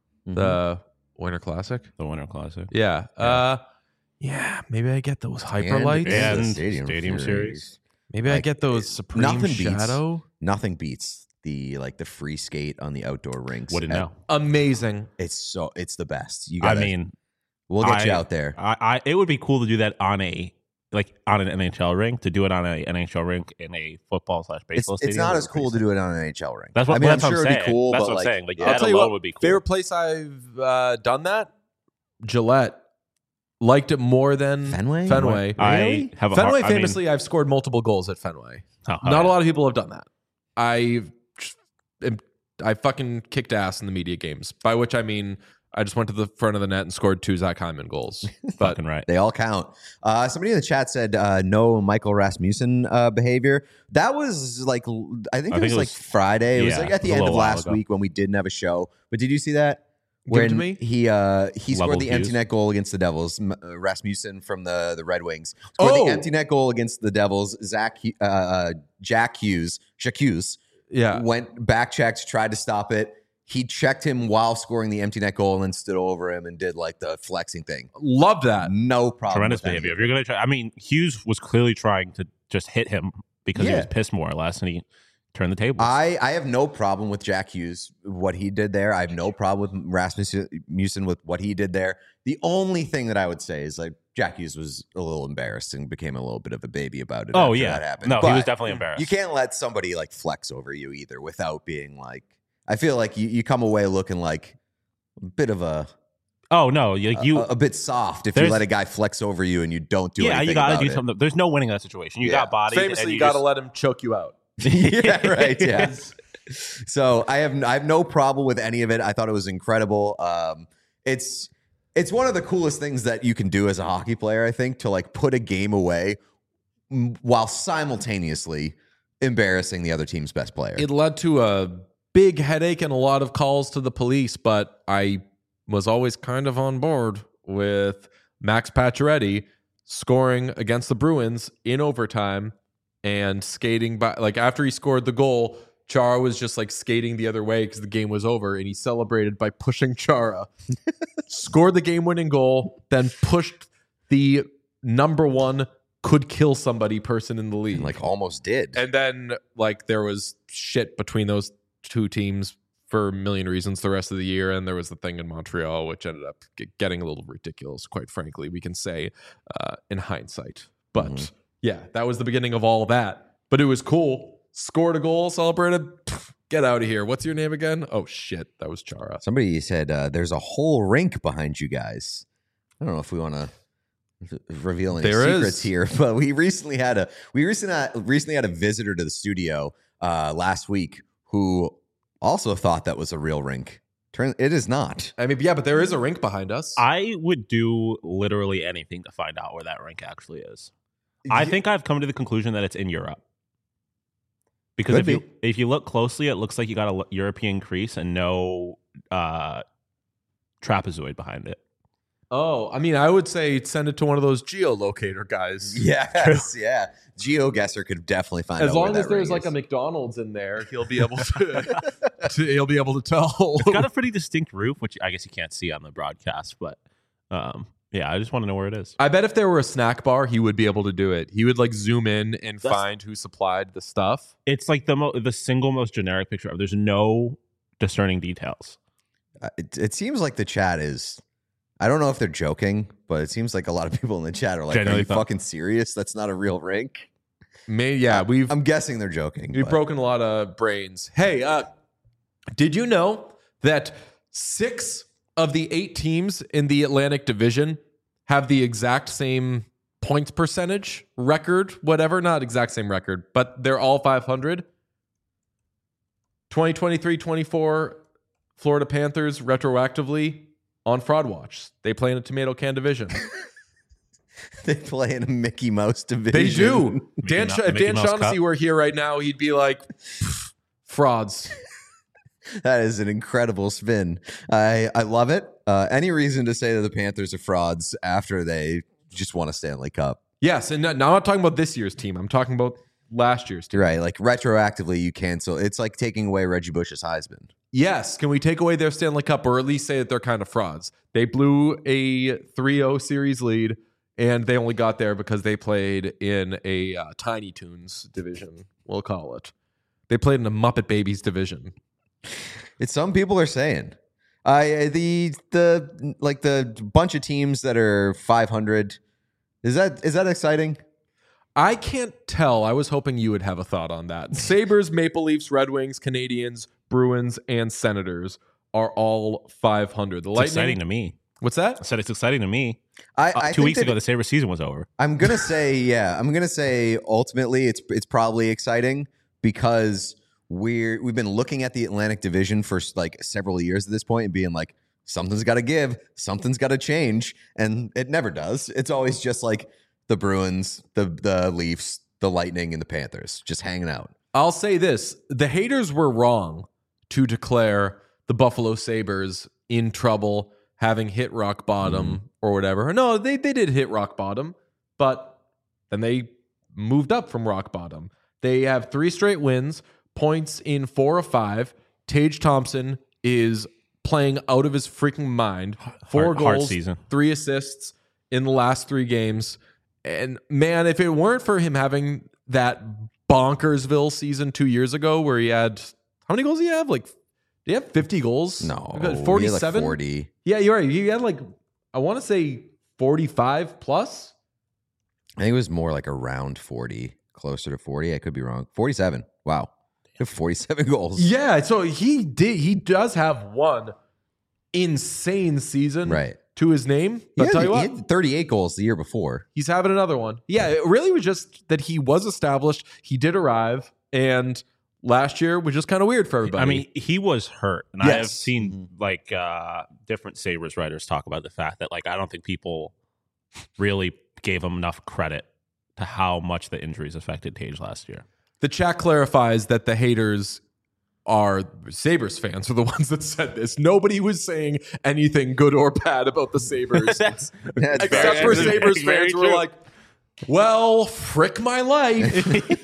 The Winter Classic. The Winter Classic. Yeah. Uh, yeah. Maybe I get those hyper lights. And- And the Stadium Stadium, Series. Series. Maybe I Like, get those it- Supreme nothing beats- Shadow. Nothing beats the like the free skate on the outdoor rinks. Wouldn't And know. Amazing. It's so it's the best. You I got mean, we'll get you I- out there. I, I it would be cool to do that on a like on an N H L rink. To do it on a N H L rink in a football slash It's, baseball it's stadium. not would as be cool pretty to do it on an N H L rink. That's what- I mean, that's I'm what sure I'm it'd be saying. cool. That's but what I'm like, saying. Like, yeah. that I'll tell you alone what, would be cool. favorite place I've uh, done that? Gillette. Liked it more than Fenway? Fenway. I Really? have a Fenway, hard, I mean- famously, I've scored multiple goals at Fenway. Oh, oh, Not yeah. a lot of people have done that. I, I fucking kicked ass in the media games, by which I mean I just went to the front of the net and scored two Zach Hyman goals. But Fucking right. They all count. Uh, somebody in the chat said uh, no Michael Rasmussen uh, behavior. That was like I think I it think was it like was- Friday. It was yeah, like at the it was a end of little while last ago. week when we didn't have a show. But did you see that? Give it When to me. he uh, he scored Level the empty Hughes. net goal against the Devils. M- uh, Rasmussen from the the Red Wings scored Oh! the empty net goal against the Devils. Zach Hu- uh, uh, Jack Hughes, Jack Hughes yeah, went back checked, tried to stop it. He checked him while scoring the empty net goal and then stood over him and did like the flexing thing. love that. No problem. Tremendous with any behavior. of If you're gonna try, I mean, Hughes was clearly trying to just hit him because he Yeah. was pissed more or less, and he turn the tables. I, I have no problem with Jack Hughes, what he did there. I have no problem with Rasmussen with what he did there. The only thing that I would say is like Jack Hughes was a little embarrassed and became a little bit of a baby about it. oh after yeah, that happened. no, But he was definitely embarrassed. you can't let somebody like flex over you either without being like. I feel like you, you come away looking like a bit of a Oh no, like you, a, a bit soft if you there's- let a guy flex over you and you don't do yeah, anything you got to about do it. something. There's no winning in that situation. You Yeah. got body. Famously, and you you got to just- let him choke you out. yeah, right. Yeah. So I have I have no problem with any of it. I thought it was incredible. Um, it's it's one of the coolest things that you can do as a hockey player. I think to like put a game away m- while simultaneously embarrassing the other team's best player. It led to a big headache and a lot of calls to the police, but I was always kind of on board with Max Pacioretty scoring against the Bruins in overtime and skating by. Like after he scored the goal, Chara was just like skating the other way because the game was over, and he celebrated by pushing Chara. Scored the game-winning goal, then pushed the number one could kill somebody person in the league. And, like almost did. And then like there was shit between those two teams for a million reasons the rest of the year, and there was the thing in Montreal which ended up g- getting a little ridiculous, quite frankly, we can say uh, in hindsight. But Mhm. yeah, that was the beginning of all that. But it was cool. Scored a goal, celebrated. Pff, get out of here. What's your name again? Oh shit, that was Chara. Somebody said uh, there's a whole rink behind you guys. I don't know if we want to reveal any There secrets is. here, but we recently had a we recently had, recently had a visitor to the studio uh, last week who also thought that was a real rink. Turn it is not. I mean, yeah, but there is a rink behind us. I would do literally anything to find out where that rink actually is. I think I've come to the conclusion that it's in Europe. Because Could if you be. if you look closely, it looks like you got a l- European crease and no uh, trapezoid behind it. oh, I mean, I would say send it to one of those geolocator guys. Yes, yeah. GeoGuessr could definitely find As out where long as that there's ring like a is. McDonald's in there, he'll be able to, to he'll be able to tell. It's got a pretty distinct roof, which I guess you can't see on the broadcast, but um, yeah, I just want to know where it is. I bet if there were a snack bar, he would be able to do it. He would like zoom in and That's- find who supplied the stuff. It's like the mo- the single most generic picture ever. There's no discerning details. Uh, It, it seems like the chat is. I don't know if they're joking, but it seems like a lot of people in the chat are like, Genuinely "Are you thought- fucking serious? That's not a real rink." May yeah, we've I'm guessing they're joking. we've but- broken a lot of brains. Hey, uh, did you know that six of the eight teams in the Atlantic Division have the exact same points percentage record? Whatever, not exact same record, but they're all five hundred. twenty twenty-three twenty-four Florida Panthers retroactively on Fraud Watch. They play in a tomato can division. They play in a Mickey Mouse division. They do. Dan, Mou- Sha- if Mickey Dan Mouse Shaughnessy Cup. were here right now, he'd be like, "Pff, frauds. That is an incredible spin. I I love it. Uh, any reason to say that the Panthers are frauds after they just won a Stanley Cup? Yes, and now I'm not talking about this year's team. I'm talking about last year's team. You're right. Like retroactively, you cancel. It's like taking away Reggie Bush's Heisman. Yes, can we take away their Stanley Cup or at least say that they're kind of frauds? They blew a three oh series lead, and they only got there because they played in a uh, Tiny Toons division, we'll call it. They played in a Muppet Babies division. It's some people are saying. I the the like the bunch of teams that are five hundred. Is that is that exciting? I can't tell. I was hoping you would have a thought on that. Sabres, Maple Leafs, Red Wings, Canadians, Bruins, and Senators are all five hundred. The It's Lightning. exciting to me. What's I that? said it's exciting to me. I, Uh, I two think weeks that ago, the Sabres season was over. I'm gonna say yeah. I'm gonna say ultimately it's it's probably exciting because we're we've been looking at the Atlantic Division for like several years at this point and being like something's got to give, something's got to change, and it never does. It's always just like the Bruins, the the Leafs, the Lightning, and the Panthers just hanging out. I'll say this. The haters were wrong to declare the Buffalo Sabres in trouble, having hit rock bottom or whatever. No, they, they did hit rock bottom, but then they moved up from rock bottom. They have three straight wins, points in four of five. Tage Thompson is playing out of his freaking mind. Four Hard- hard goals, season. three assists in the last three games. And man, if it weren't for him having that bonkersville season two years ago where he had how many goals did he have? Like, did he have fifty goals? No, forty-seven. Like forty. Yeah, you're right. He had like I want to say forty-five plus. I think it was more like around forty, closer to forty. I could be wrong. forty-seven. Wow. forty-seven goals. Yeah, so he did. He does have one insane season Right. to his name. But He tell had, you he what, had thirty-eight goals the year before. he's having another one. Yeah, it really was just that he was established. He did arrive, and last year was just kind of weird for everybody. I mean, he was hurt, and I have Yes. seen like uh, different Sabres writers talk about the fact that like I don't think people really gave him enough credit to how much the injuries affected Tage last year. the chat clarifies that the haters are Sabres fans are the ones that said this. Nobody was saying anything good or bad about the Sabres. That's That's Except very- for Very Sabres true. fans who were like, well, frick my life.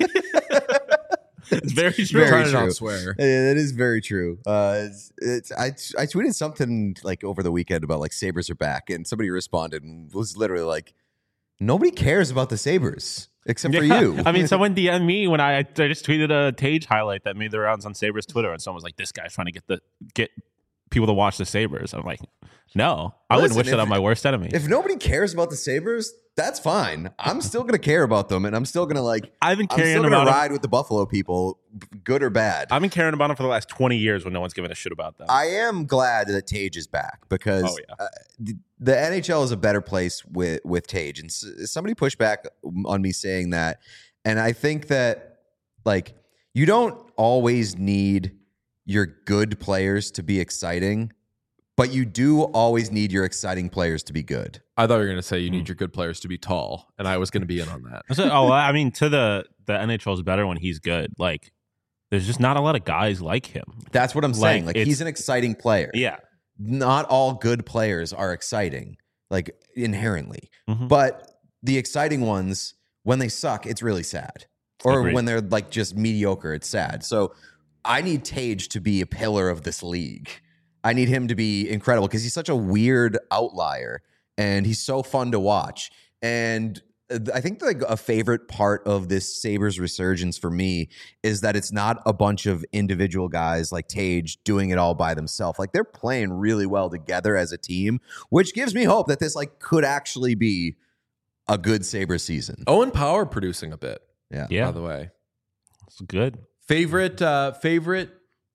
it's very true. Very Trying to true. not swear. Yeah, that is very true. Uh, it's, it's I I tweeted something like over the weekend about like Sabres are back, and somebody responded and was literally like, "Nobody cares about the Sabres except for Yeah. you." I mean, someone D M'd me when I, I just tweeted a Tage highlight that made the rounds on Sabres Twitter, and someone was like, "This guy's trying to get the get people to watch the Sabres." I'm like, "No, I wouldn't Listen, wish that if- on my worst enemy." if nobody cares about the Sabres, that's fine. I'm still gonna care about them, and I'm still gonna like. I've been I'm caring still gonna about 'em- ride with the Buffalo people, b- good or bad. I've been caring about them for the last twenty years when no one's given a shit about them. I am glad that Tage is back because Oh, yeah. uh, the, the N H L is a better place with with Tage, and s- somebody pushed back on me saying that, and I think that like you don't always need your good players to be exciting, but you do always need your exciting players to be good. I thought you were going to say you need your good players to be tall, and I was going to be in on that. So- oh, I mean, to the the N H L is better when he's good. Like, there's just not a lot of guys like him. That's what I'm saying. Like it's- he's an exciting player. Yeah, Not all good players are exciting, like inherently. Mhm. But the exciting ones, when they suck, it's really sad. Or Agreed. when they're like just mediocre, it's sad. So I need Tage to be a pillar of this league. I need him to be incredible because he's such a weird outlier and he's so fun to watch. And uh, I think like a favorite part of this Sabres resurgence for me is that it's not a bunch of individual guys like Tage doing it all by themselves. Like they're playing really well together as a team, which gives me hope that this like could actually be a good Sabres season. Owen Power producing a bit, Yeah. yeah, by the way. it's good. Favorite, uh, favorite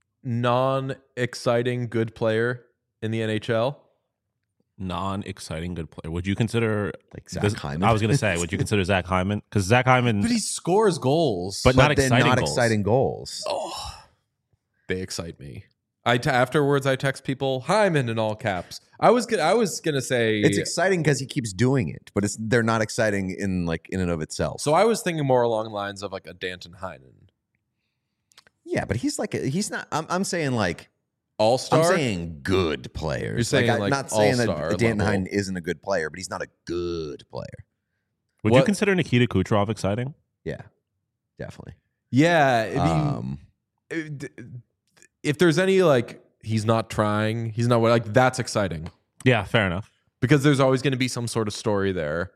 non-exciting good player in the N H L? Non-exciting good player. Would you consider Like Zach this- Hyman. I was going to say, would you consider Zach Hyman? Because Zach Hyman, But he scores goals. But not then exciting not goals. exciting goals. oh, they excite me. I t- afterwards I text people Hyman in all caps. I was gonna, I was gonna say It's exciting because he keeps doing it, but it's they're not exciting in like in and of itself. so. I was thinking more along the lines of like a Danton Heinen, yeah, but he's like a, he's not. I'm, I'm saying like all I'm star. saying good players. You're saying, I'm like, not saying all-star that Dan level. Hyden isn't a good player, but he's not a good player. would What- you consider Nikita Kucherov exciting? Yeah, definitely. Yeah, I mean, Um, it- if there's any like he's not trying, he's not like that's exciting Yeah, fair enough. because there's always going to be some sort of story there.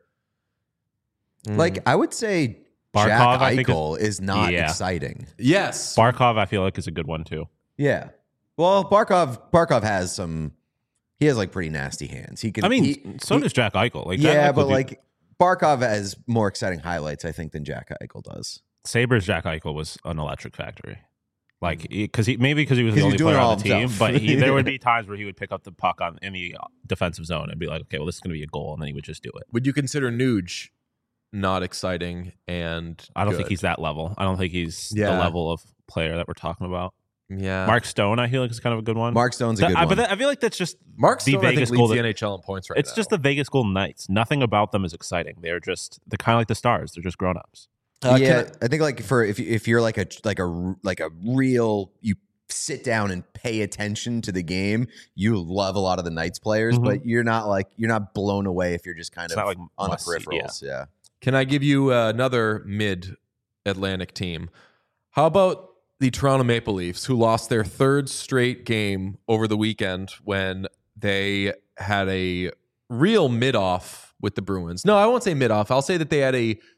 Mm. like I would say, Barkov, Jack I think, is- Eichel is, not Yeah. exciting. yes, Barkov, I feel like is a good one too. Yeah. Well, Barkov Barkov has some. He has like pretty nasty hands. He can. I mean, he- so he- does Jack Eichel. Like, Jack yeah, Eichel but do- like Barkov has more exciting highlights, I think, than Jack Eichel does. Sabres Jack Eichel was an electric factory. Like, because he maybe because he was the 'Cause only he's doing player it all on the team, himself. but he, there would be times where he would pick up the puck on in the defensive zone and be like, okay, well, this is going to be a goal, and then he would just do it. would you consider Nuge not exciting? And I don't think good? he's that level. I don't think he's the Yeah. level of player that we're talking about. yeah. Mark Stone, I feel like is kind of a good one. Mark Stone's a That- good I, one. but that- I feel like that's just Mark the Stone, I think, Vegas leads Golden- the N H L in points right it's now. just the Vegas Golden Knights. Nothing about them is exciting. They're just they're kind of like the Stars. They're just grown ups. Uh, can yeah, I, think like for if you- if you're like a like a r- like a real you sit down and pay attention to the game, you love a lot of the Knights players, Mhm. but you're not like you're not blown away if you're just kind It's of not like on the must see, yeah. peripherals. Yeah. Can I give you uh, another mid-Atlantic team? How about the Toronto Maple Leafs, who lost their third straight game over the weekend when they had a real mid-off with the Bruins? No, I won't say mid-off. I'll say that they had a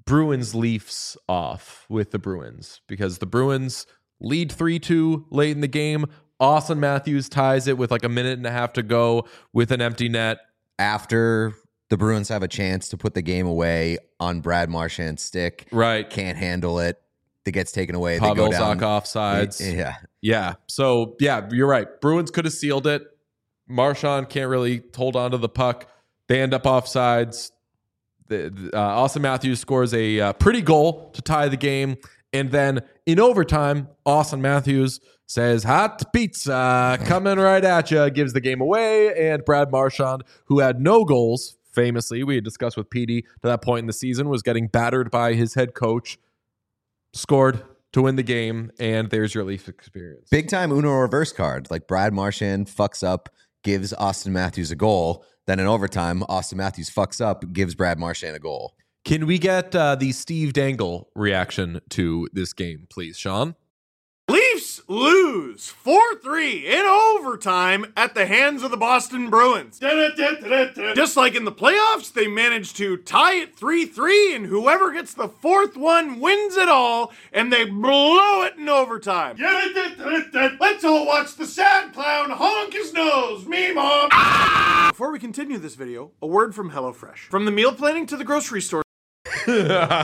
Bruins Leafs off with the Bruins because the Bruins lead three two late in the game. Austin Matthews ties it with like a minute and a half to go with an empty net. After the Bruins have a chance to put the game away on Brad Marchand's stick. Right. Can't handle it. That gets taken away. Pavel they go down. Zacha offsides. Yeah. Yeah. So, yeah, you're right. Bruins could have sealed it. Marchand can't really hold on to the puck. They end up offsides. The, uh, Austin Matthews scores a uh, pretty goal to tie the game. And then in overtime, Austin Matthews says, hot pizza coming right at you, gives the game away. And Brad Marchand, who had no goals, famously, we had discussed with Petey to that point in the season, was getting battered by his head coach, scored to win the game. And there's your Leaf experience. Big time Uno reverse card. Like Brad Marchand fucks up, gives Austin Matthews a goal. Then in overtime, Austin Matthews fucks up, gives Brad Marchand a goal. Can we get uh, the Steve Dangle reaction to this game, please, Sean? Leafs lose four three in overtime at the hands of the Boston Bruins. Just like in the playoffs, they managed to tie it three three, and whoever gets the fourth one wins it all, and they blow it in overtime. Let's all watch the sad clown honk his nose. Me, Mom. Before we continue this video, a word from HelloFresh. From the meal planning to the grocery store. Oh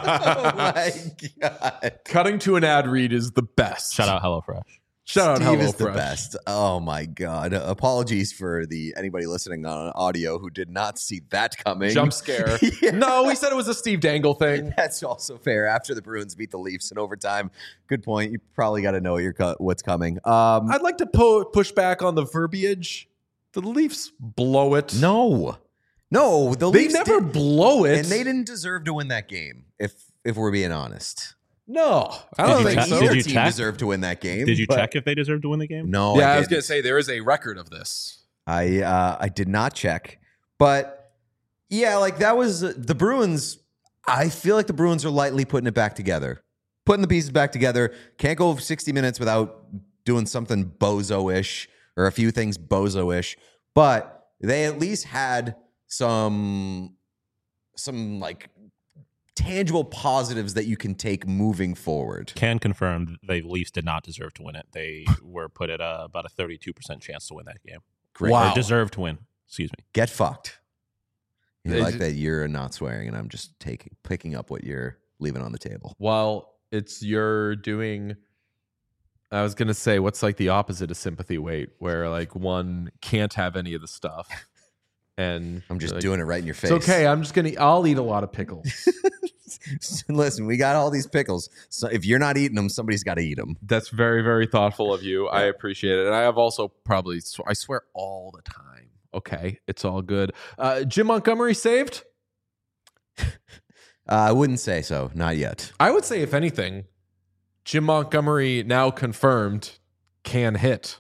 my God. Cutting to an ad read is the best. Shout out HelloFresh. Shout Steve out is the HelloFresh. best. Oh my God. Apologies for the anybody listening on audio who did not see that coming. Jump scare. Yeah. No, we said it was a Steve Dangle thing. That's also fair. After the Bruins beat the Leafs in overtime. Good point. You probably got to know your co- what's coming. Um, I'd like to po- push back on the verbiage. The Leafs blow it. no. No. The they Leafs never did- blow it. And they didn't deserve to win that game, if if we're being honest. No, I Did don't you think check- so. did Either you team check? deserved to win that game. Did you but- check if they deserved to win the game? No. Yeah, I, I, was going to didn't. say there is a record of this. I uh, I did not check, but yeah, like that was uh, the Bruins. I feel like the Bruins are lightly putting it back together, putting the pieces back together. Can't go sixty minutes without doing something bozo-ish or a few things bozo-ish, but they at least had some some like tangible positives that you can take moving forward. Can confirm the Leafs did not deserve to win it. They were put at a, about a thirty-two percent chance to win that game. Great. Wow. Or deserved to win. Excuse me. Get fucked. You They like ju- that you're not swearing and I'm just taking picking up what you're leaving on the table. Well, it's you're doing. I was going to say, what's like the opposite of sympathy weight, where like one can't have any of the stuff. And I'm just like, doing it right in your face. It's okay. I'm just gonna. I'll eat a lot of pickles. Listen, we got all these pickles. So if you're not eating them, somebody's got to eat them. That's very, very thoughtful of you. I appreciate it. And I have also probably. sw- I swear all the time. Okay, it's all good. Uh, Jim Montgomery saved. Uh, I wouldn't say so. Not yet. I would say, if anything, Jim Montgomery now confirmed can hit.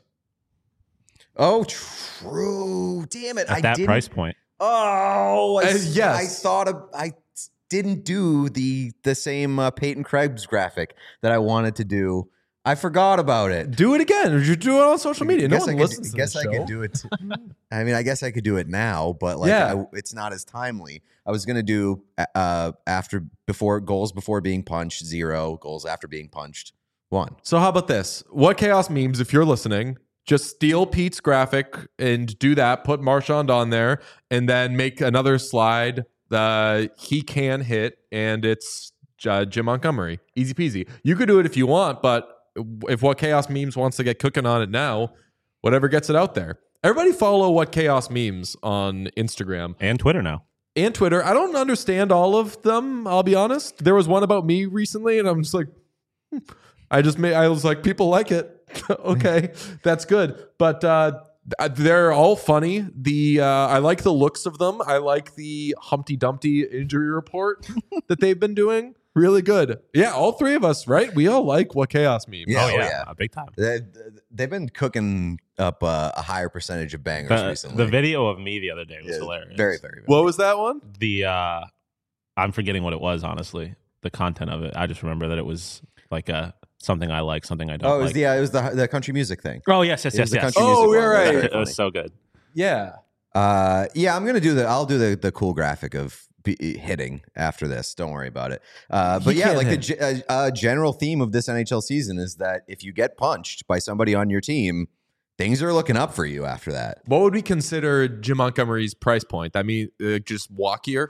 Oh, true. Damn it. At I that didn't. price point. Oh, I, Uh, s- yes. I thought of, I didn't do the the same uh, Peyton Krebs graphic that I wanted to do. I forgot about it. Do it again. Or you do it on social media. No Guess one I could, listens to guess the I show. could do it. I mean, I guess I could do it now, but like, Yeah. I, it's not as timely. I was gonna do uh after before goals before being punched zero, goals after being punched one. So how about this? What Chaos Memes, if you're listening, just steal Pete's graphic and do that. Put Marchand on there and then make another slide. Uh, he can hit, and it's uh, Jim Montgomery. Easy peasy. You could do it if you want, but if What Chaos Memes wants to get cooking on it now, whatever gets it out there. Everybody follow What Chaos Memes on Instagram And Twitter now. and Twitter. I don't understand all of them, I'll be honest. There was one about me recently, and I'm just like, hmm. I just made, I was like, people like it. Okay, that's good. But uh, they're all funny. The uh, I like the looks of them. I like the Humpty Dumpty injury report that they've been doing. Really good. Yeah, all three of us, right? We all like What Chaos Memes. Yeah, oh, oh, yeah. yeah. Uh, big time. They, they've been cooking up uh, a higher percentage of bangers The, recently. the video of me the other day was Yeah, hilarious. Very, very. very What was that one? The, uh, I'm forgetting what it was, honestly. The content of it. I just remember that it was like a something I like, something I don't Oh, it was like. the uh, it was the the country music thing. oh, yes, yes, It yes, was the yes. country Oh, music you're one. It was right. very It was funny. so good. Yeah. Uh, yeah, I'm gonna do the. I'll do the the cool graphic of be hitting after this. Don't worry about it. Uh, but He yeah, can't like the hit. ge- uh, uh, general theme of this N H L season is that if you get punched by somebody on your team, things are looking up for you after that. What would we consider Jim Montgomery's price point? I mean, uh, just walkier.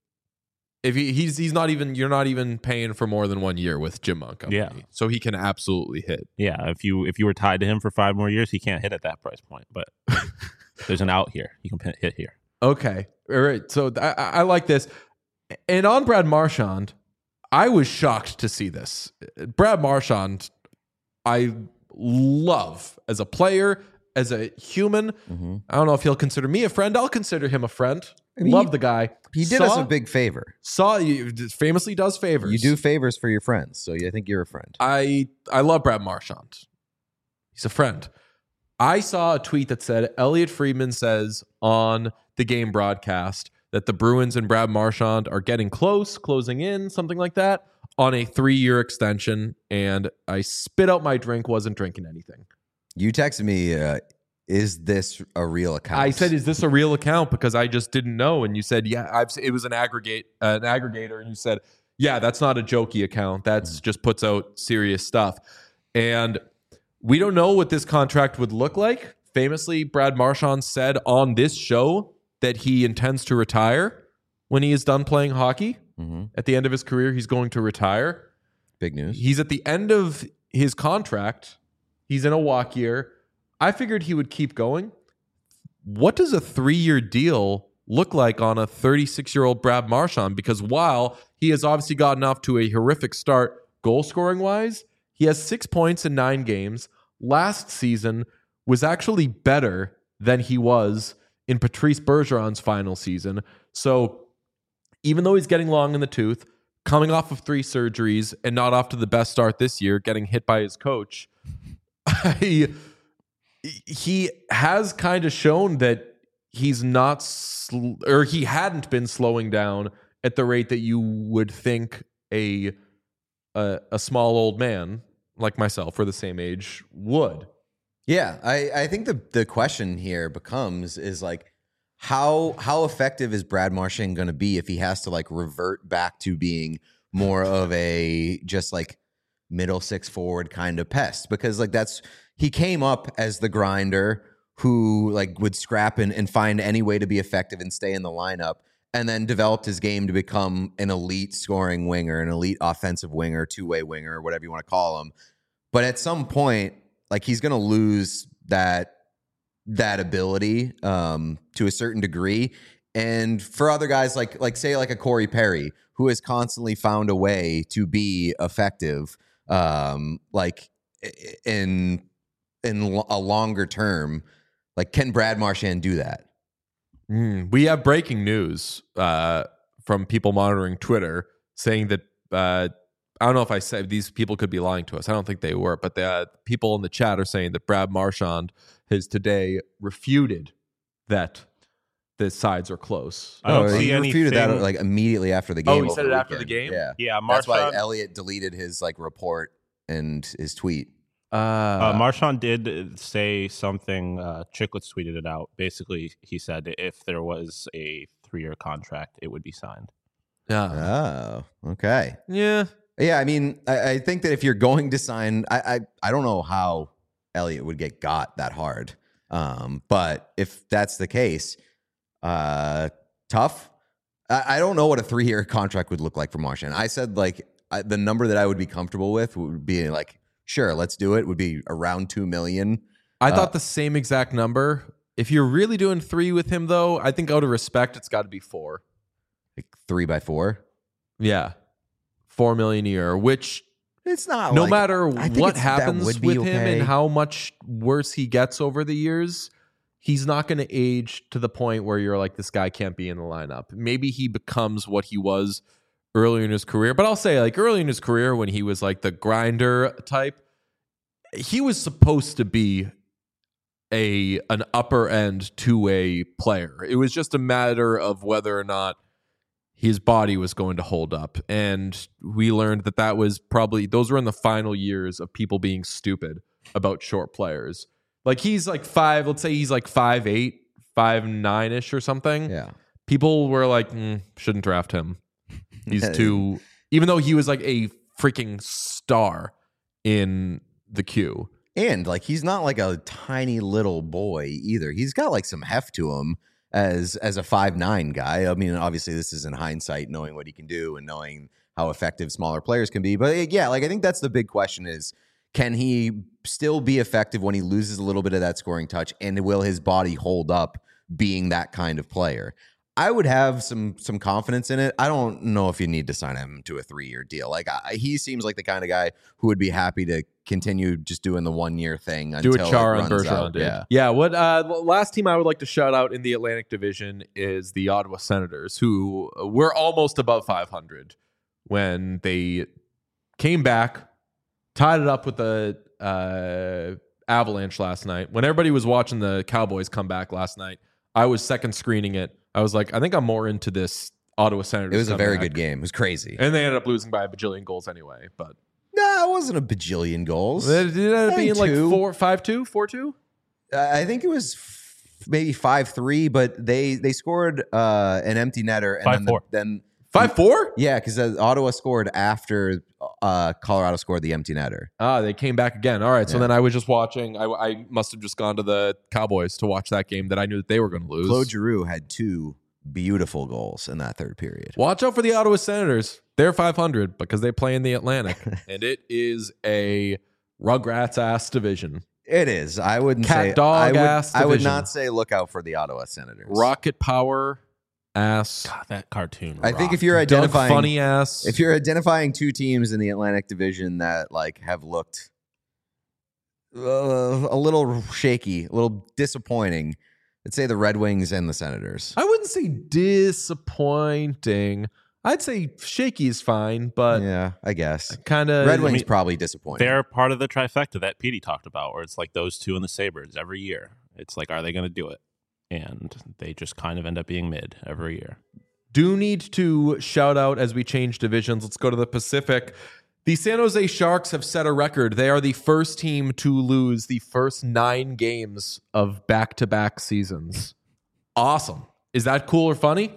If he, he's he's not even you're not even paying for more than one year with Jim Montgomery. Yeah. So he can absolutely hit. Yeah, if you if you were tied to him for five more years, he can't hit at that price point. But there's an out here. You can pin- hit here. Okay. All right. So I, I I like this. And on Brad Marchand, I was shocked to see this. Brad Marchand, I love as a player, as a human. Mm-hmm. I don't know if he'll consider me a friend. I'll consider him a friend. I mean, love he- the guy. He did saw, us a big favor. Saw you famously does favors. You do favors for your friends, so I think you're a friend. I I love Brad Marchand. He's a friend. I saw a tweet that said Elliot Friedman says on the game broadcast that the Bruins and Brad Marchand are getting close, closing in, something like that, on a three-year extension. And I spit out my drink, wasn't drinking anything. You texted me, uh, is this a real account? I said, "Is this a real account?" Because I just didn't know, and you said, "Yeah, I've." It was an aggregate, uh, an aggregator, and you said, "Yeah, that's not a jokey account. That's Mm. just puts out serious stuff." And we don't know what this contract would look like. Famously, Brad Marchand said on this show that he intends to retire when he is done playing hockey. Mhm. At the end of his career, he's going to retire. Big news. He's at the end of his contract. He's in a walk year. I figured he would keep going. What does a three-year deal look like on a thirty-six-year-old Brad Marchand? Because while he has obviously gotten off to a horrific start goal-scoring wise, he has six points in nine games. Last season was actually better than he was in Patrice Bergeron's final season. So even though he's getting long in the tooth, coming off of three surgeries and not off to the best start this year, getting hit by his coach, I, he has kind of shown that he's not, sl- or he hadn't been slowing down at the rate that you would think a a, a small old man like myself, or the same age, would. Yeah, I, I think the the question here becomes is like how how effective is Brad Marchand going to be if he has to like revert back to being more of a just like middle six forward kind of pest, because like that's he came up as the grinder who like would scrap and, and find any way to be effective and stay in the lineup, and then developed his game to become an elite scoring winger, an elite offensive winger, two-way winger, or whatever you want to call him. But at some point, like he's going to lose that that ability um, to a certain degree. And for other guys, like like say like a Corey Perry, who has constantly found a way to be effective, um, like in in a longer term, like can Brad Marchand do that? Mm, we have breaking news uh, from people monitoring Twitter saying that uh, I don't know if I said these people could be lying to us. I don't think they were, but the uh, people in the chat are saying that Brad Marchand has today refuted that the sides are close. I don't Oh, see he refuted that anything- like immediately after the Oh, game. he over said it after the weekend. game? Yeah, Yeah, that's why Marchand, Elliot deleted his like report and his tweet. uh, Marchand did say something. Uh, Chicklets tweeted it out. Basically, he said if there was a three-year contract, it would be signed. yeah, Oh, okay. yeah. Yeah, I mean, I, I think that if you're going to sign, I, I I don't know how Elliot would get got that hard. Um, but if that's the case, uh, tough. I, I don't know what a three year contract would look like for Marchand. I said like I, the number that I would be comfortable with would be like, sure, let's do it. Would be around two million. I Uh, thought the same exact number. If you're really doing three with him, though, I think out of respect, it's got to be four. Like three by four. Yeah, four million a year, which It's not. no like- matter I think what it's- that happens would with be him okay. and how much worse he gets over the years, he's not going to age to the point where you're like, this guy can't be in the lineup. Maybe he becomes what he was earlier in his career. But I'll say, like, early in his career when he was like the grinder type, he was supposed to be a an upper end two-way player. It was just a matter of whether or not his body was going to hold up. And we learned that that was probably, those were in the final years of people being stupid about short players. Like he's like five, let's say he's like five eight, five nine ish or something. Yeah. people were like, mm, shouldn't draft him. He's too, even though he was like a freaking star in the queue. And like he's not like a tiny little boy either. He's got like some heft to him as as a five nine guy. I mean, obviously this is in hindsight, knowing what he can do and knowing how effective smaller players can be. But yeah, like I think that's the big question is, can he still be effective when he loses a little bit of that scoring touch, and will his body hold up being that kind of player? I would have some some confidence in it. I don't know if you need to sign him to a three-year deal. Like I, he seems like the kind of guy who would be happy to continue just doing the one-year thing until Do what Char it and runs Bergeron out. did. Yeah. Yeah. What uh, the last team I would like to shout out in the Atlantic Division is the Ottawa Senators, who were almost above five hundred when they came back, tied it up with the uh, Avalanche last night. When everybody was watching the Cowboys come back last night, I was second screening it. I was like, I think I'm more into this Ottawa Senators. It was a very comeback. good game. It was crazy. And they ended up losing by a bajillion goals anyway. But No, it wasn't a bajillion goals. it ended up I being think like two. four, five, two, four, two. I think it was f- maybe five three, but they they scored uh, an empty netter. And five then, the- four. then Five, four? yeah, because Ottawa scored after uh, Colorado scored the empty netter. Ah, they came back again. All right. So Yeah. then I was just watching. I, I must have just gone to the Cowboys to watch that game that I knew that they were going to lose. Claude Giroux had two beautiful goals in that third period. Watch out for the Ottawa Senators. They're five hundred because they play in the Atlantic, and it is a Rugrats ass division. It is. I wouldn't Cat say dog I would, ass I would division. not say look out for the Ottawa Senators. Rocket power ass. God, that cartoon. I think rocked. if you're Doug identifying funny ass. if you're identifying two teams in the Atlantic Division that like have looked uh, a little shaky, a little disappointing, I'd say the Red Wings and the Senators. I wouldn't say disappointing. I'd say shaky is fine, but yeah, I guess. kind of Red Wings mean, probably disappointing. They're part of the trifecta that Petey talked about, where it's like those two and the Sabres every year. It's like, are they going to do it? And they just kind of end up being mid every year. do need to shout out as we change divisions. Let's go to the Pacific. The San Jose Sharks have set a record. They are the first team to lose the first nine games of back-to-back seasons. Awesome. Is that cool or funny?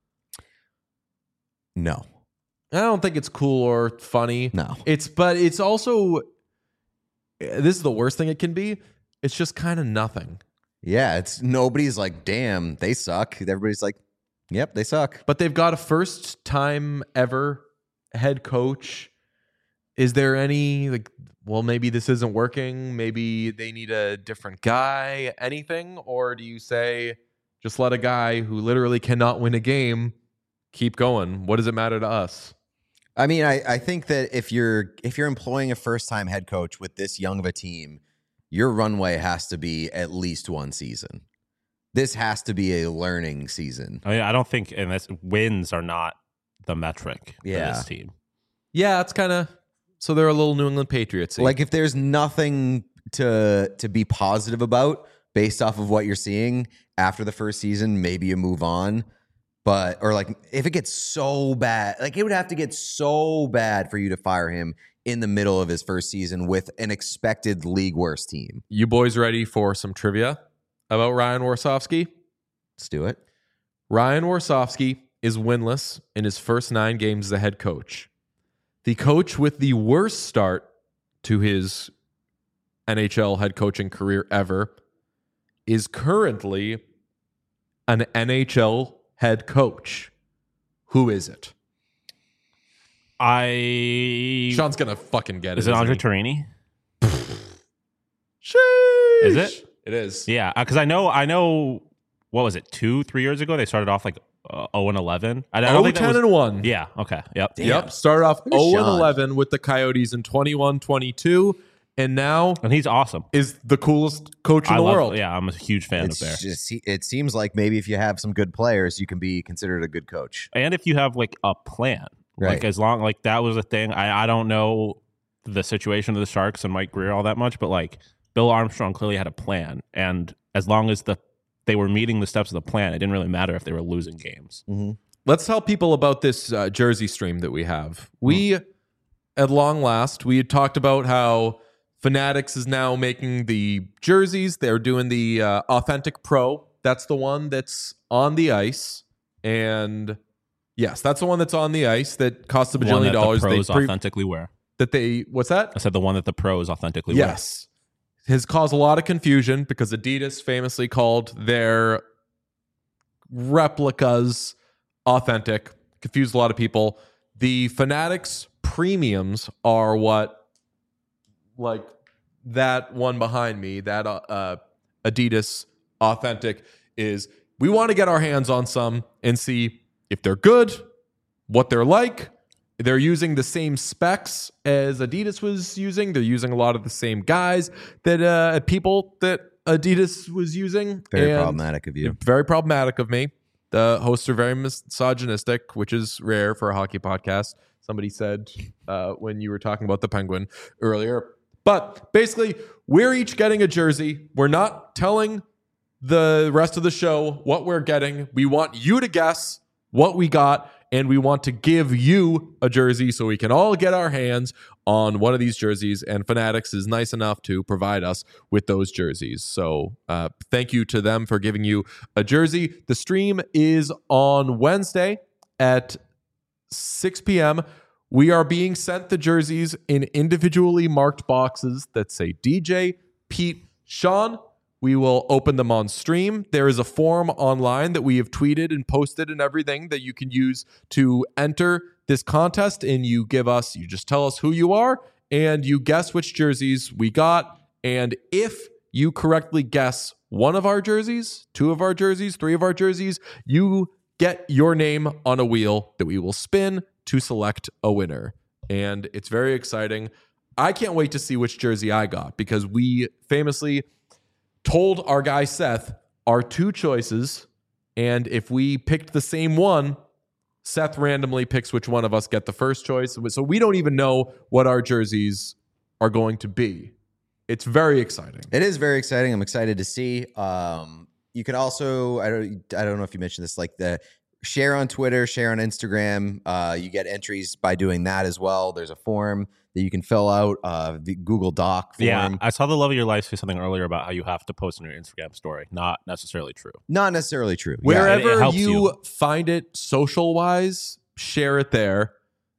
No. I don't think it's cool or funny. No. It's but it's also this is the worst thing it can be. It's just kind of nothing. Yeah, it's nobody's like, damn, they suck. Everybody's like, yep, they suck. But they've got a first time ever head coach. Is there any like, well, maybe this isn't working. Maybe they need a different guy, anything? Or do you say just let a guy who literally cannot win a game keep going? What does it matter to us? I mean, I, I think that if you're if you're employing a first time head coach with this young of a team, your runway has to be at least one season. This has to be a learning season. I mean, I don't think, and this, wins are not the metric Yeah. for this team. Yeah, it's kind of so they're a little New England Patriots. Like if there's nothing to to be positive about based off of what you're seeing after the first season, maybe you move on. But or like if it gets so bad, like it would have to get so bad for you to fire him in the middle of his first season with an expected league worst team. You boys ready for some trivia about Ryan Warsofsky? Let's do it. Ryan Warsofsky is winless in his first nine games as a head coach. The coach with the worst start to his N H L head coaching career ever is currently an N H L head coach. Who is it? I Sean's gonna fucking get it. is it isn't Andre he? Torini? Sheesh. Is it? It is. Yeah, because I know, I know. What was it? Two, three years ago, they started off like uh, zero and eleven. I, I don't oh, think that ten was, and one. Yeah. Okay. Yep. Yep. Started off Look at oh and Sean. eleven with the Coyotes in twenty-one twenty-two, and now And he's awesome. is the coolest coach in I the love, world. Yeah, I'm a huge fan It's of Bear. just, it seems like maybe if you have some good players, you can be considered a good coach. And if you have like a plan, Right. like as long like that was a thing. I I don't know the situation of the Sharks and Mike Greer all that much, but like Bill Armstrong clearly had a plan, and as long as the they were meeting the steps of the plan, it didn't really matter if they were losing games. Let's tell people about this uh, Jersey stream that we have. We, at long last, we had talked about how Fanatics is now making the jerseys. They're doing the uh, Authentic Pro. That's the one that's on the ice. And yes, that's the one that's on the ice that costs a One bajillion that dollars. the pros they pre- authentically wear. that they what's that? I said the one that the pros authentically wear. Yes. Has caused a lot of confusion because Adidas famously called their replicas authentic. Confused a lot of people. The Fanatics premiums are what, like that one behind me, that uh, Adidas authentic is. We want to get our hands on some and see if they're good, what they're like. They're using the same specs as Adidas was using. They're using a lot of the same guys that uh, people that Adidas was using. Very And problematic of you. Very problematic of me. The hosts are very misogynistic, which is rare for a hockey podcast. Somebody said uh, when you were talking about the Penguin earlier. But basically, we're each getting a jersey. We're not telling the rest of the show what we're getting. We want you to guess what we got. And we want to give you a jersey so we can all get our hands on one of these jerseys. And Fanatics is nice enough to provide us with those jerseys. So uh, thank you to them for giving you a jersey. The stream is on Wednesday at six p.m. We are being sent the jerseys in individually marked boxes that say D J, Pete, Sean. We will open them on stream. There is a form online that we have tweeted and posted and everything that you can use to enter this contest. And you give us, you just tell us who you are and you guess which jerseys we got. And if you correctly guess one of our jerseys, two of our jerseys, three of our jerseys, you get your name on a wheel that we will spin to select a winner. And it's very exciting. I can't wait to see which jersey I got because we famously told our guy Seth our two choices, and if we picked the same one, Seth randomly picks which one of us get the first choice. So we don't even know what our jerseys are going to be. It's very exciting. It is very exciting. I'm excited to see. Um, you can also, I don't, I don't know if you mentioned this, like the share on Twitter, share on Instagram. Uh, you get entries by doing that as well. There's a form that you can fill out, uh, the Google Doc form. Yeah, I saw the Love of Your Life say something earlier about how you have to post on your Instagram story. Not necessarily true. Not necessarily true. Wherever it helps you, you. find it social wise, share it there.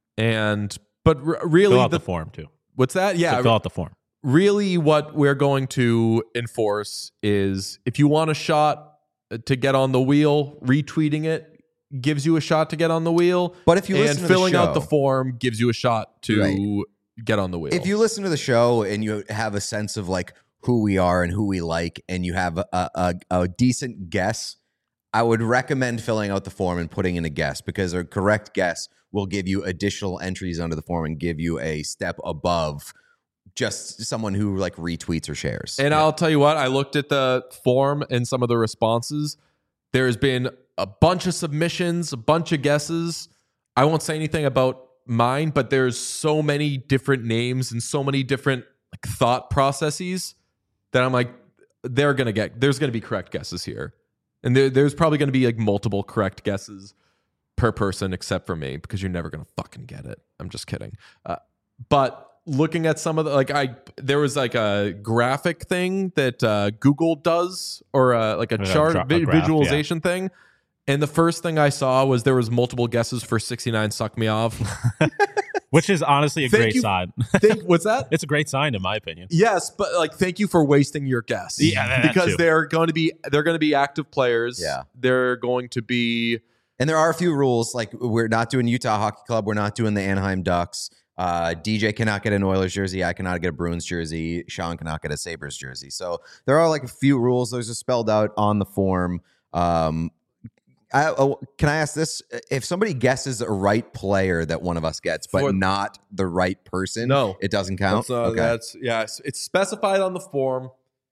And but r- Fill really, out the, the form too. what's that? Yeah, So fill out the form. really what we're going to enforce is if you want a shot to get on the wheel, retweeting it gives you a shot to get on the wheel. But if you and listen to the filling out show- the form gives you a shot to Right. get on the wheel. If you listen to the show and you have a sense of like who we are and who we like, and you have a, a, a decent guess, I would recommend filling out the form and putting in a guess, because a correct guess will give you additional entries under the form and give you a step above just someone who like retweets or shares. And I'll tell you what, I looked at the form and some of the responses. There's been a bunch of submissions, a bunch of guesses. I won't say anything about mine, but there's so many different names and so many different like thought processes that I'm like, they're gonna get. There's gonna be correct guesses here, and there, there's probably gonna be like multiple correct guesses per person, except for me, because you're never gonna fucking get it. I'm just kidding. Uh, but looking at some of the like, I there was like a graphic thing that uh, Google does, or uh, like a Yeah, chart dra- a vi- graph, visualization thing. And the first thing I saw was there was multiple guesses for sixty-nine Suck Me Off. Which is honestly a Thank great you. sign. Think, what's that? It's a great sign in my opinion. Yes, but like, thank you for wasting your guess. Yeah, that because too. they're going to be they're going to be active players. Yeah. They're going to be. And there are a few rules, like we're not doing Utah Hockey Club. We're not doing the Anaheim Ducks. Uh, D J cannot get an Oilers jersey. I cannot get a Bruins jersey. Sean cannot get a Sabres jersey. So there are like a few rules. Those are spelled out on the form. Um, I, oh, can I ask this? If somebody guesses a right player that one of us gets, but For- not the right person, No. it doesn't count? That's, uh, that's yeah. It's, it's specified on the form.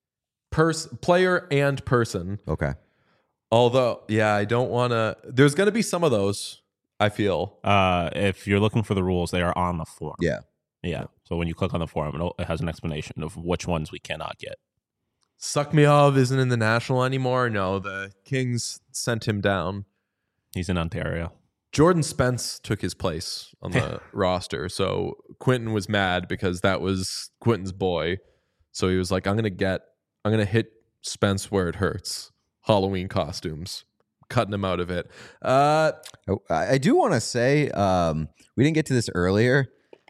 Pers- player and person. Okay. Although, yeah, I don't want to. There's going to be some of those. I feel. Uh, if you're looking for the rules, they are on the form. Yeah. Yeah. So when you click on the form, it'll- it has an explanation of which ones we cannot get. Suck Me Off isn't in the National anymore. No, the Kings sent him down. He's in Ontario. Jordan Spence took his place on the roster. So Quentin was mad because that was Quentin's boy. So he was like, I'm going to get, I'm going to hit Spence where it hurts. Halloween costumes. cutting him out of it. Uh, Oh, I I do want to say, um, we didn't get to this earlier.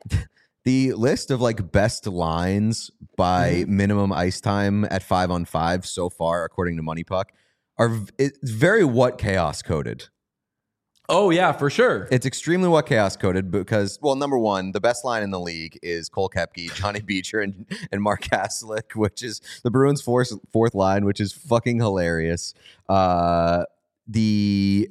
The list of like best lines by Mm-hmm. minimum ice time at five on five so far, according to Money Puck, are v- it's very what chaos coded. oh, yeah, for sure. It's extremely what chaos coded because, well, number one, the best line in the league is Cole Koepke, Johnny Beecher, and, and Mark Haslick, which is the Bruins' fourth, fourth line, which is fucking hilarious. Uh, the,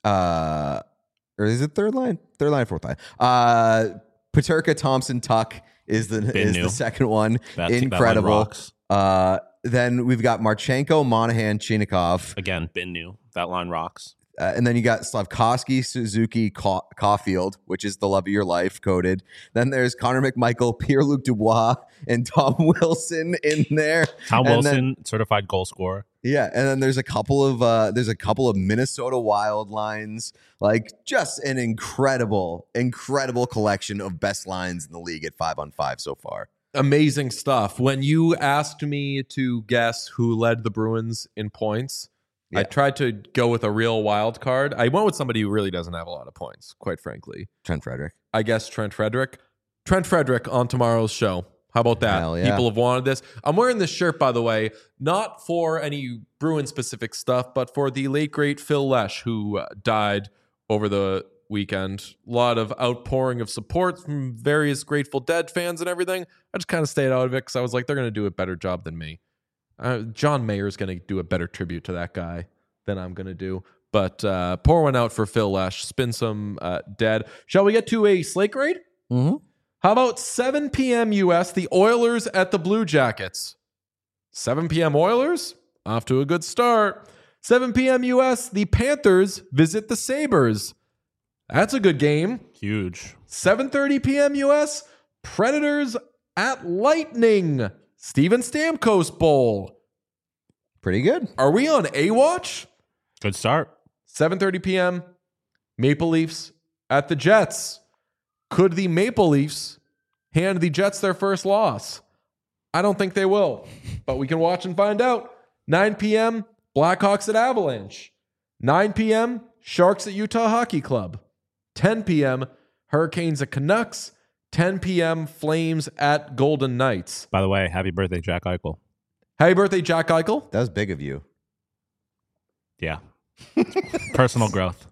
uh, or is it third line? Third line, fourth line. Uh, Paterka, Thompson, Tuck is the, Been is new. the second one. That- that line Incredible. rocks. Uh, then we've got Marchenko, Monahan, Chinikov. Again, been new. That line rocks. Uh, and then you got Slavkovsky, Suzuki, Ca- Caulfield, which is the love of your life coded. Then there's Connor McMichael, Pierre-Luc Dubois, and Tom Wilson in there. Tom And Wilson, then- certified goal scorer. yeah, and then there's a couple of uh, there's a couple of Minnesota Wild lines, like just an incredible, incredible collection of best lines in the league at five on five so far. Amazing stuff. When you asked me to guess who led the Bruins in points, I Yeah. tried to go with a real wild card. I went with somebody who really doesn't have a lot of points, quite frankly. Trent Frederick. I guess Trent Frederick. Trent Frederick on tomorrow's show. How about that? Hell yeah. People have wanted this. I'm wearing this shirt, by the way, not for any Bruin specific stuff, but for the late, great Phil Lesh, who uh, died over the weekend. A lot of outpouring of support from various Grateful Dead fans and everything. I just kind of stayed out of it because I was like, they're going to do a better job than me. Uh, John Mayer's going to do a better tribute to that guy than I'm going to do. But uh, pour one out for Phil Lesh. Spin some uh, dead. Shall we get to a slate grade? Mm-hmm. How about seven p.m. U S, the Oilers at the Blue Jackets? seven p.m. Oilers, off to a good start. seven p.m. U S, the Panthers visit the Sabres. That's a good game. Huge. seven thirty p.m. U S, Predators at Lightning. Steven Stamkos Bowl. Pretty good. Are we on A-Watch? Good start. seven thirty p.m. Maple Leafs at the Jets. Could the Maple Leafs hand the Jets their first loss? I don't think they will, but we can watch and find out. nine p.m. Blackhawks at Avalanche. nine p.m. Sharks at Utah Hockey Club. ten p.m. Hurricanes at Canucks. ten p.m. Flames at Golden Knights. By the way, happy birthday, Jack Eichel. Happy birthday, Jack Eichel. That was big of you. Yeah. Personal growth.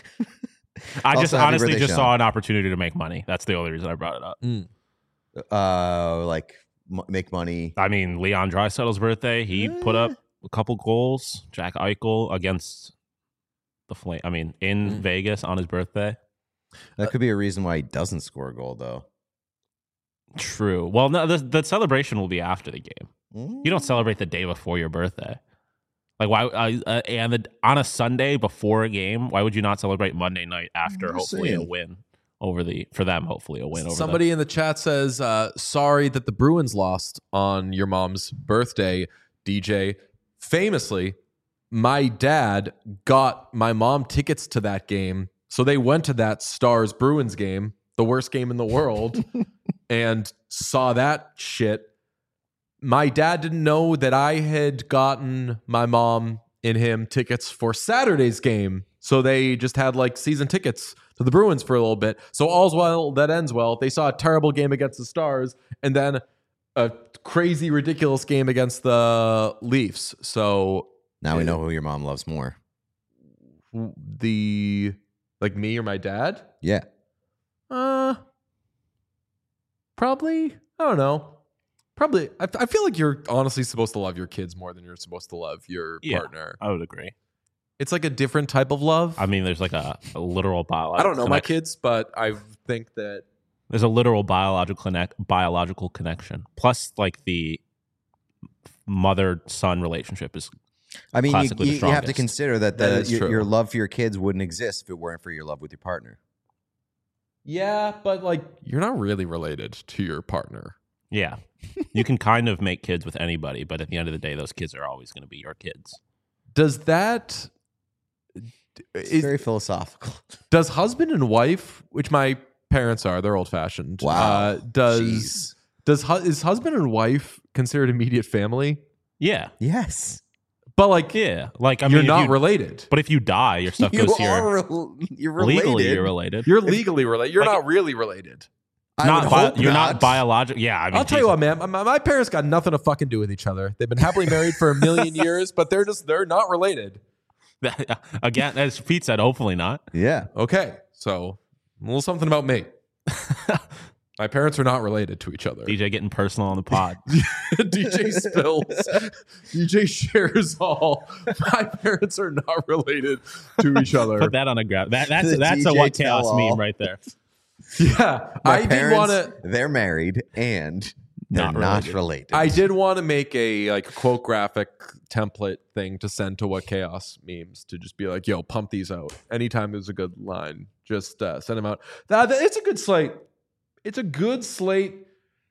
I Also, just happy honestly birthday, just Sean. saw an opportunity to make money. That's the only reason I brought it up. Uh, like m- make money. I mean, Leon Draisaitl's birthday, he put up a couple goals. Jack Eichel against the Flame. I mean, in Vegas on his birthday. That could be a reason why he doesn't score a goal, though. True. Well, no, the, the celebration will be after the game. Mm. You don't celebrate the day before your birthday. Like why? Uh, uh, and the, on a Sunday before a game, why would you not celebrate Monday night after I'm just hopefully a saying. win over the for them? Hopefully a win over Somebody in the chat says, uh, sorry that the Bruins lost on your mom's birthday, D J. Famously, my dad got my mom tickets to that game. So they went to that Stars Bruins game, the worst game in the world, and saw that shit. My dad didn't know that I had gotten my mom and him tickets for Saturday's game. So they just had like season tickets to the Bruins for a little bit. So all's well that ends well. They saw a terrible game against the Stars and then a crazy, ridiculous game against the Leafs. So Now we know who your mom loves more. the, like me or my dad? Yeah. Uh, probably, I don't know. Probably, I, I feel like you're honestly supposed to love your kids more than you're supposed to love your Yeah. partner. I would agree. It's like a different type of love. I mean, there's like a, a literal biological. I don't know my connect- kids, but I think that There's a literal biological connect biological connection. Plus, like the mother son relationship is I mean, you, Classically the you, you have to strongest. consider that, That the, is your, true. your love for your kids wouldn't exist if it weren't for your love with your partner. yeah, but like you're not really related to your partner. yeah. You can kind of make kids with anybody, but at the end of the day, those kids are always going to be your kids. Does that It's is, very philosophical. does husband and wife, which my parents are, they're old fashioned. Wow. Uh, does Jeez. does hu- is husband and wife considered immediate family? Yeah. Yes. But like, Yeah, like I you're mean, if not you- related. But if you die, your stuff You goes here. are rel- you're related. Legally, you're related. You're legally related. You're Like- not really related. I not would bi- hope you're not, not. biological. Yeah, I mean, I'll tell you Jesus. what, man. My, my parents got nothing to fucking do with each other. They've been happily married for a million years, but they're just they're not related. Again, as Pete said, hopefully not. Yeah. Okay, so a little something about me. My parents are not related to each other. D J getting personal on the pod. D J spills. D J shares all. My parents are not related to each other. Put that on a graph. That, that's The that's D a J what chaos tell-all. meme right there. Yeah, My I did parents, want to. They're married and they're Not not related. related. I did want to make a like quote graphic template thing to send to what chaos memes to just be like, yo, pump these out anytime there's a good line. Just uh, send them out. That, that- it's a good slate. It's a good slate.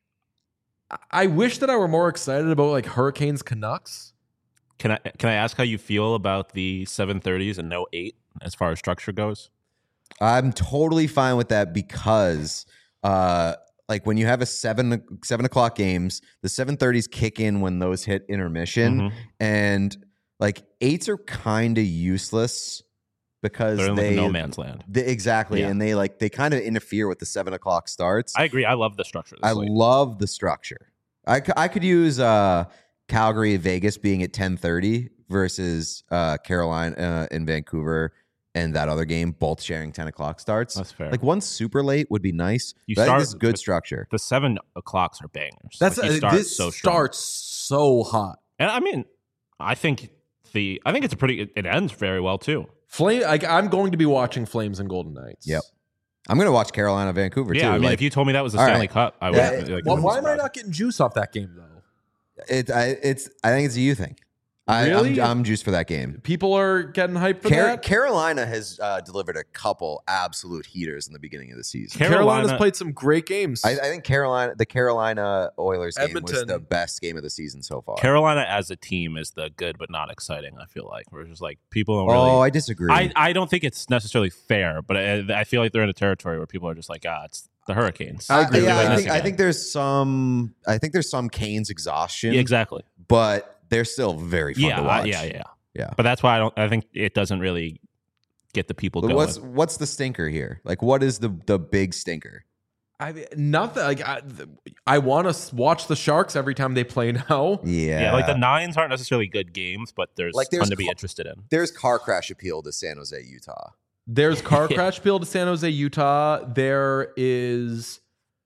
I- I wish that I were more excited about like Hurricanes Canucks. Can I can I ask how you feel about the seven thirties and no eight as far as structure goes? I'm totally fine with that because, uh, like when you have a seven seven o'clock games, the seven thirties kick in when those hit intermission, Mhm. and like eights are kind of useless because They're in like they no man's land. they- exactly, Yeah. and they like they kind of interfere with the seven o'clock starts. I agree. I love the structure. Of this I slate. love the structure. I, c- I could use uh, Calgary, Vegas being at ten thirty versus uh, Carolina uh, and Vancouver and that other game, both sharing ten o'clock starts. That's fair. Like one super late would be nice. You but I think start this is good with- structure. the seven o'clocks are bangers. That's Like, you uh, start this so strong. starts so hot. And I mean, I think the I think it's a pretty. It, it ends very well too. Flame. Like I'm going to be watching Flames and Golden Knights. Yep. I'm going to watch Carolina, Vancouver Yeah, too. I mean, like, if you told me that was the all Stanley right. Cup, I would. Yeah, like, Well, wouldn't why be am I surprised. not getting juice off that game though? it, I, it's, I think it's a you thing. I, Really? I'm, I'm juiced for that game. People are getting hyped for Car- that. Carolina has uh, delivered a couple absolute heaters in the beginning of the season. Carolina- Carolina's played some great games. I, I think Carolina, the Carolina Oilers game was Edmonton. the best game of the season so far. Carolina as a team is the good but not exciting. I feel like we're just like people don't really. Oh, I disagree. I, I don't think it's necessarily fair, but I, I feel like they're in a territory where people are just like, ah, it's the Hurricanes. I, agree with yeah, that. I think, I Again. think there's some. I think there's some Canes exhaustion. Yeah, exactly. But they're still very fun Yeah, to I- watch. yeah, yeah. Yeah. But that's why I don't. I think it doesn't really get the people But going. what's what's the stinker here? Like, what is the the big stinker? I mean, nothing. Like I, I want to watch the Sharks every time they play now. Yeah, yeah, like the nines aren't necessarily good games, but there's Like, like there's fun to be co- interested in. there's car crash appeal to San Jose, Utah. There's car Yeah. crash appeal to San Jose, Utah. There is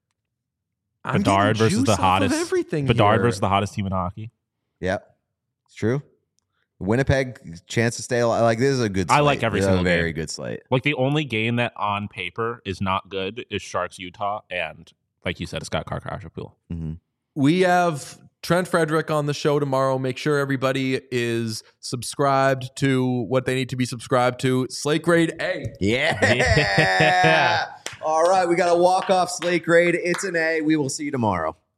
I'm Bedard getting versus juice the off of hottest. everything. Bedard here. versus the hottest team in hockey. Yep, it's true. Winnipeg chance to stay alive. Like this is a good. I Slate. like every This is single a very game. good slate. Like the only game that on paper is not good is Sharks Utah, and like you said, it's got car crash appeal. Mm-hmm. We have Trent Frederick on the show tomorrow. Make sure everybody is subscribed to what they need to be subscribed to. Slate Grade A. Yeah. Yeah. All right, we got a walk off slate grade. It's an A. We will see you tomorrow.